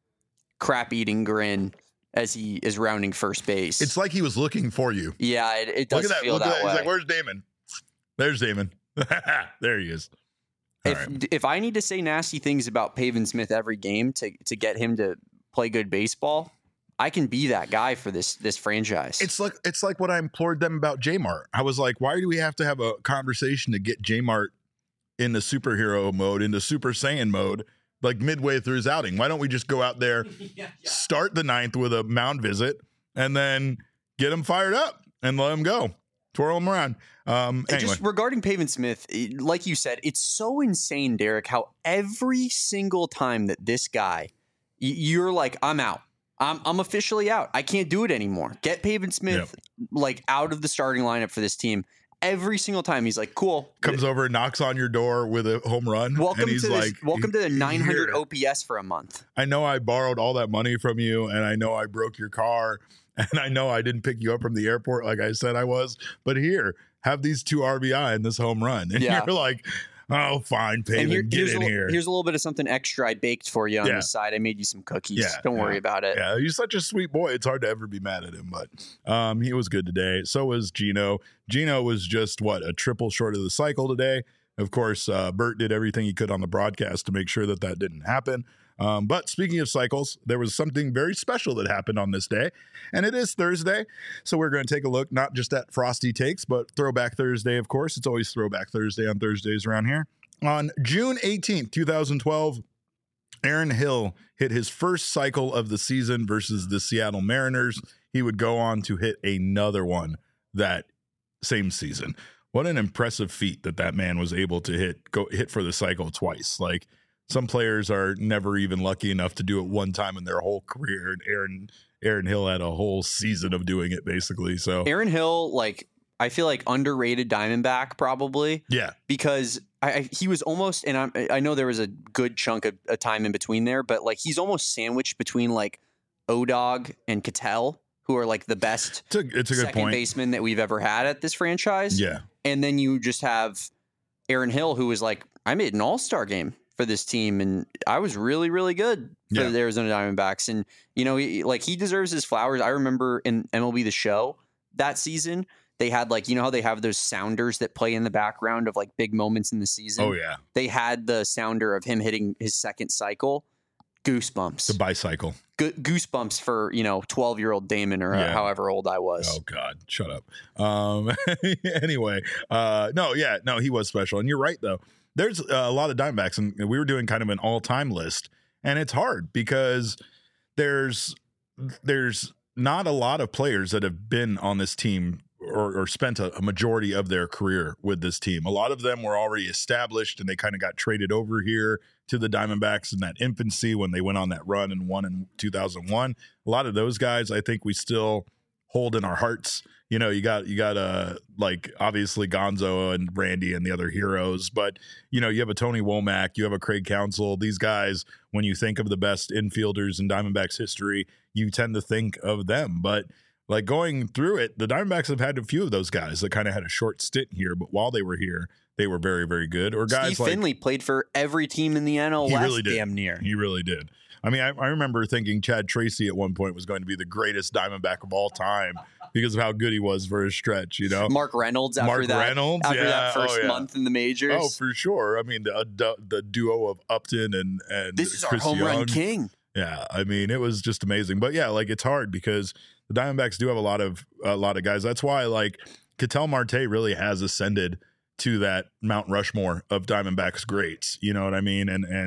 crap eating grin as he is rounding first base. It's like he was looking for you. Yeah, it, it does Look at that. feel Look that, at that way. He's like, where's Damon? There's Damon. There he is. All if right. if I need to say nasty things about Pavin Smith every game to to get him to play good baseball, I can be that guy for this this franchise. It's like it's like what I implored them about J-Mart. I was like, why do we have to have a conversation to get J-Mart into superhero mode, into Super Saiyan mode, like midway through his outing? Why don't we just go out there, yeah, yeah. start the ninth with a mound visit, and then get him fired up and let him go, twirl him around. Um, anyway. Just regarding Pavin Smith, like you said, it's so insane, Derek, how every single time that this guy, you're like, I'm out. I'm I'm officially out. I can't do it anymore. Get Pavin Smith yep. like out of the starting lineup for this team. Every single time he's like, cool. Comes over and knocks on your door with a home run. Welcome and he's to like, this, welcome to the nine hundred here. O P S for a month. I know I borrowed all that money from you, and I know I broke your car, and I know I didn't pick you up from the airport like I said I was. But here, have these two R B I and this home run, and yeah. you're like, oh, fine, Pavin, here, get in a, here. Here's a little bit of something extra I baked for you on yeah. the side. I made you some cookies. Yeah, Don't yeah. worry about it. Yeah, he's such a sweet boy. It's hard to ever be mad at him, but um, he was good today. So was Gino. Gino was just, what, a triple short of the cycle today. Of course, uh, Bert did everything he could on the broadcast to make sure that that didn't happen. Um, but speaking of cycles, there was something very special that happened on this day, and it is Thursday. So we're going to take a look not just at Frosty Takes, but Throwback Thursday, of course. It's always Throwback Thursday on Thursdays around here. On June eighteenth, twenty twelve, Aaron Hill hit his first cycle of the season versus the Seattle Mariners. He would go on to hit another one that same season. What an impressive feat that that man was able to hit go hit for the cycle twice. Like, some players are never even lucky enough to do it one time in their whole career. And Aaron Aaron Hill had a whole season of doing it, basically. So Aaron Hill, like, I feel like underrated Diamondback probably. Yeah. Because I, I he was almost, and I, I know there was a good chunk of a time in between there, but like he's almost sandwiched between like O-Dog and Ketel, who are like the best it's a, it's a good second point. baseman that we've ever had at this franchise. Yeah. And then you just have Aaron Hill, who was like, I made an all-star game for this team, and I was really, really good for yeah. the Arizona Diamondbacks. And, you know, he, like he deserves his flowers. I remember in M L B The Show that season, they had like, you know how they have those sounders that play in the background of like big moments in the season? Oh, yeah. They had the sounder of him hitting his second cycle. Goosebumps. The bicycle. Go- goosebumps for, you know, twelve-year-old Damon or yeah. however old I was. Oh, God. Shut up. Um, anyway, uh, no, yeah, no, he was special. And you're right, though. There's a lot of Diamondbacks, and we were doing kind of an all-time list, and it's hard because there's there's not a lot of players that have been on this team or, or spent a, a majority of their career with this team. A lot of them were already established, and they kind of got traded over here to the Diamondbacks in that infancy when they went on that run and won in two thousand one. A lot of those guys, I think we still hold in our hearts. You know, you got, you got, uh, like, obviously Gonzo and Randy and the other heroes, but, you know, you have a Tony Womack, you have a Craig Counsell. These guys, when you think of the best infielders in Diamondbacks history, you tend to think of them. But, like, going through it, the Diamondbacks have had a few of those guys that kind of had a short stint here, but while they were here, they were very, very good. Or guys Steve like Finley played for every team in the N L West, really did. damn near. He really did. I mean, I, I remember thinking Chad Tracy at one point was going to be the greatest Diamondback of all time because of how good he was for his stretch, you know? Mark Reynolds after Mark that, Reynolds, after yeah. that first oh, yeah. month in the majors. Oh, for sure. I mean, the, the duo of Upton and, and this is Chris our home Young. run king. Yeah, I mean, it was just amazing. But yeah, like, it's hard because the Diamondbacks do have a lot of a lot of guys. That's why, like, Ketel Marte really has ascended to that Mount Rushmore of Diamondbacks greats. You know what I mean? And and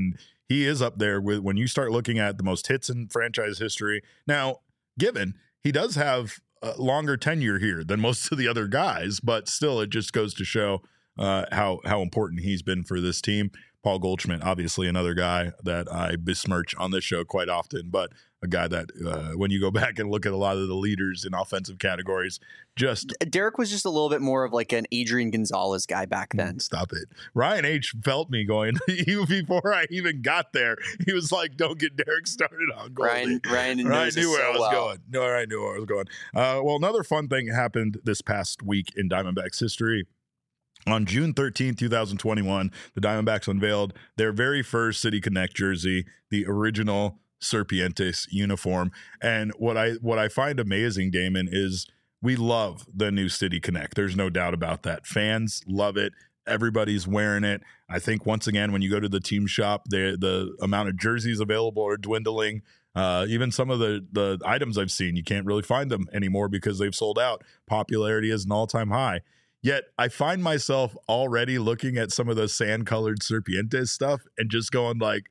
he is up there with when you start looking at the most hits in franchise history. Now, given he does have a longer tenure here than most of the other guys, but still, it just goes to show uh, how how important he's been for this team. Paul Goldschmidt, obviously another guy that I besmirch on this show quite often, but a guy that uh, when you go back and look at a lot of the leaders in offensive categories, just Derek was just a little bit more of like an Adrian Gonzalez guy back then. Stop it. Ryan H felt me going even before I even got there. He was like, "Don't get Derek started on Goldie." Ryan, Ryan, Ryan knew where so I was well. going. No, I knew where I was going. Uh, well, another fun thing happened this past week in Diamondbacks history. On June thirteenth, twenty twenty-one, the Diamondbacks unveiled their very first City Connect jersey, the original Serpientes uniform. And what I what I find amazing, Damon, is we love the new City Connect. There's no doubt about that. Fans love it. Everybody's wearing it. I think once again, when you go to the team shop, the the amount of jerseys available are dwindling. Uh, even some of the the items I've seen, you can't really find them anymore because they've sold out. Popularity is an all-time high. Yet I find myself already looking at some of the sand-colored Serpientes stuff and just going like,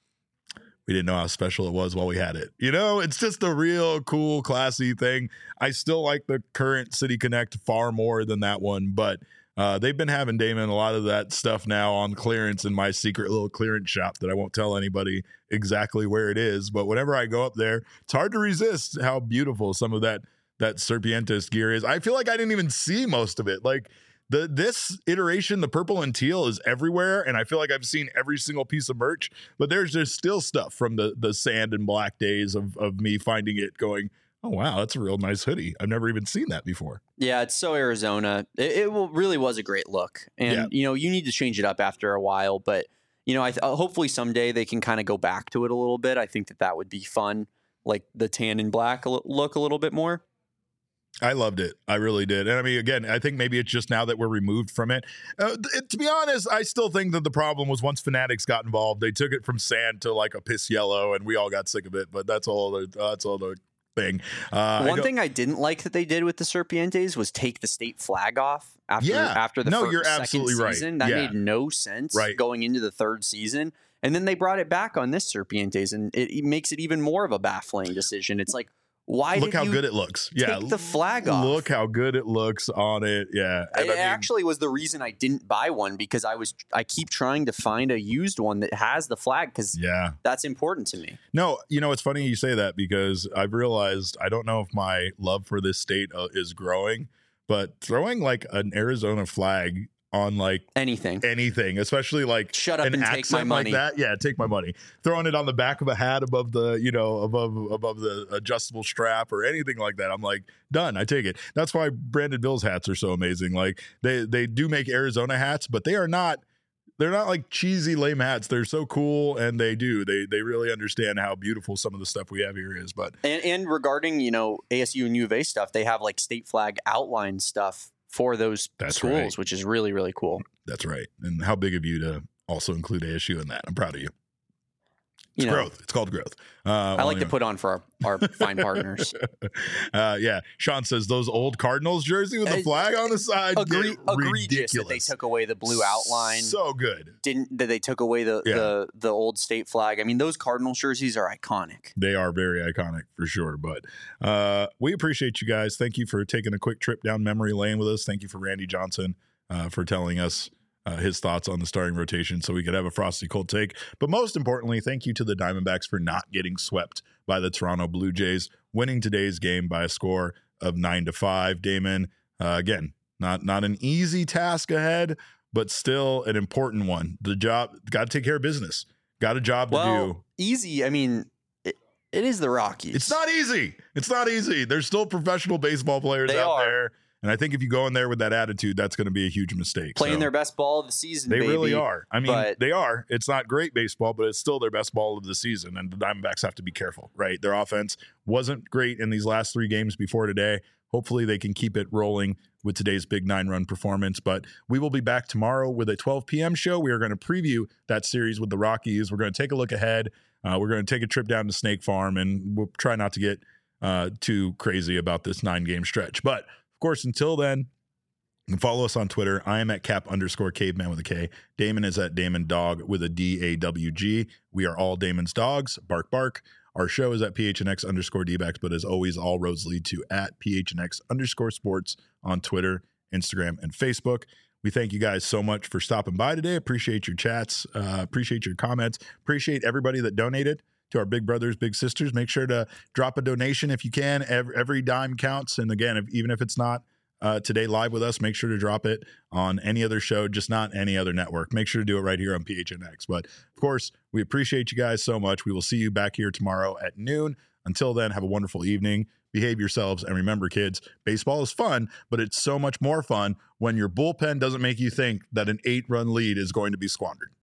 we didn't know how special it was while we had it. You know, it's just a real cool, classy thing. I still like the current City Connect far more than that one, but uh, they've been having, Damon, a lot of that stuff now on clearance in my secret little clearance shop that I won't tell anybody exactly where it is. But whenever I go up there, it's hard to resist how beautiful some of that that Serpientes gear is. I feel like I didn't even see most of it. Like the this iteration, the purple and teal is everywhere, and I feel like I've seen every single piece of merch, but there's just still stuff from the the sand and black days of of me finding it going, oh wow, that's a real nice hoodie. I've never even seen that before. Yeah, it's so Arizona. It, it will, really was a great look. And Yeah. you know, you need to change it up after a while, but you know, I th- hopefully someday they can kind of go back to it a little bit. I think that that would be fun, like the tan and black a l- look a little bit more. I loved it. I really did. And I mean, again, I think maybe it's just now that we're removed from it. Uh, th- to be honest, I still think that the problem was once Fanatics got involved, they took it from sand to like a piss yellow, and we all got sick of it. But that's all. The, uh, that's all the thing. Uh, One I thing I didn't like that they did with the Serpientes was take the state flag off after Yeah. after the No, first, you're second absolutely right. season. That Yeah. made no sense Right. going into the third season. And then they brought it back on this Serpientes, and it, it makes it even more of a baffling decision. It's like, why look did how you good it looks. Yeah, take the flag off? Look how good it looks on it. Yeah, It And I mean, actually was the reason I didn't buy one, because I was I keep trying to find a used one that has the flag, because yeah. that's important to me. No, you know, it's funny you say that, because I've realized, I don't know if my love for this state uh, is growing, but throwing like an Arizona flag on like Anything. anything, especially like Shut up an and take my accent money. like that. Yeah, take my money. Throwing it on the back of a hat above the, you know, above above the adjustable strap or anything like that. I'm like, done. I take it. That's why Brandon Bill's hats are so amazing. Like they they do make Arizona hats, but they are not they're not like cheesy lame hats. They're so cool, and they do. They they really understand how beautiful some of the stuff we have here is. But And, and regarding, you know, A S U and U of A stuff, they have like state flag outline stuff for those That's schools, right. which is really, really cool. that's right. And how big of you to also include A S U in that. I'm proud of you. It's You know, growth. It's called growth. Uh, I well, like to anyway. put on for our, our fine partners. uh, yeah. Sean says those old Cardinals jersey with the Uh, flag on the side. Agree, get egregious that they ridiculous. took away the blue outline. So good. Didn't that they took away the, Yeah. the the old state flag? I mean, those Cardinals jerseys are iconic. They are very iconic for sure. But uh, we appreciate you guys. Thank you for taking a quick trip down memory lane with us. Thank you for Randy Johnson uh, for telling us uh, his thoughts on the starting rotation so we could have a frosty cold take. But most importantly, thank you to the Diamondbacks for not getting swept by the Toronto Blue Jays, winning today's game by a score of nine to five. Damon, uh, again, not not an easy task ahead, but still an important one. The job, got to take care of business. Got a job to Well, do. easy. I mean, it, it is the Rockies. It's not easy. It's not easy. There's still professional baseball players They out are. there. And I think if you go in there with that attitude, that's going to be a huge mistake. playing So their best ball of the season. they baby. really are. I mean, but- they are. It's not great baseball, but it's still their best ball of the season. And the Diamondbacks have to be careful, right? Their offense wasn't great in these last three games before today. Hopefully they can keep it rolling with today's big nine-run performance. But we will be back tomorrow with a twelve p.m. show. We are going to preview that series with the Rockies. We're going to take a look ahead. Uh, we're going to take a trip down to Snake Farm, and we'll try not to get uh, too crazy about this nine-game stretch. But, of course, until then, You can follow us on Twitter. I am at cap underscore caveman with a K. Damon is at Damon Dog with a D A W G. We are all Damon's dogs. Bark, bark. Our show is at P H N X underscore D-backs, but as always, all roads lead to at P H N X underscore sports on Twitter, Instagram, and Facebook. We thank you guys so much for stopping by today. Appreciate your chats. Uh, appreciate your comments. Appreciate everybody that donated to our big brothers, big sisters. Make sure to drop a donation if you can. Every, every dime counts. And again, if, even if it's not uh, today live with us, make sure to drop it on any other show, just not any other network. Make sure to do it right here on P H N X. But of course, we appreciate you guys so much. We will see you back here tomorrow at noon. Until then, have a wonderful evening. Behave yourselves. And remember, kids, baseball is fun, but it's so much more fun when your bullpen doesn't make you think that an eight-run lead is going to be squandered.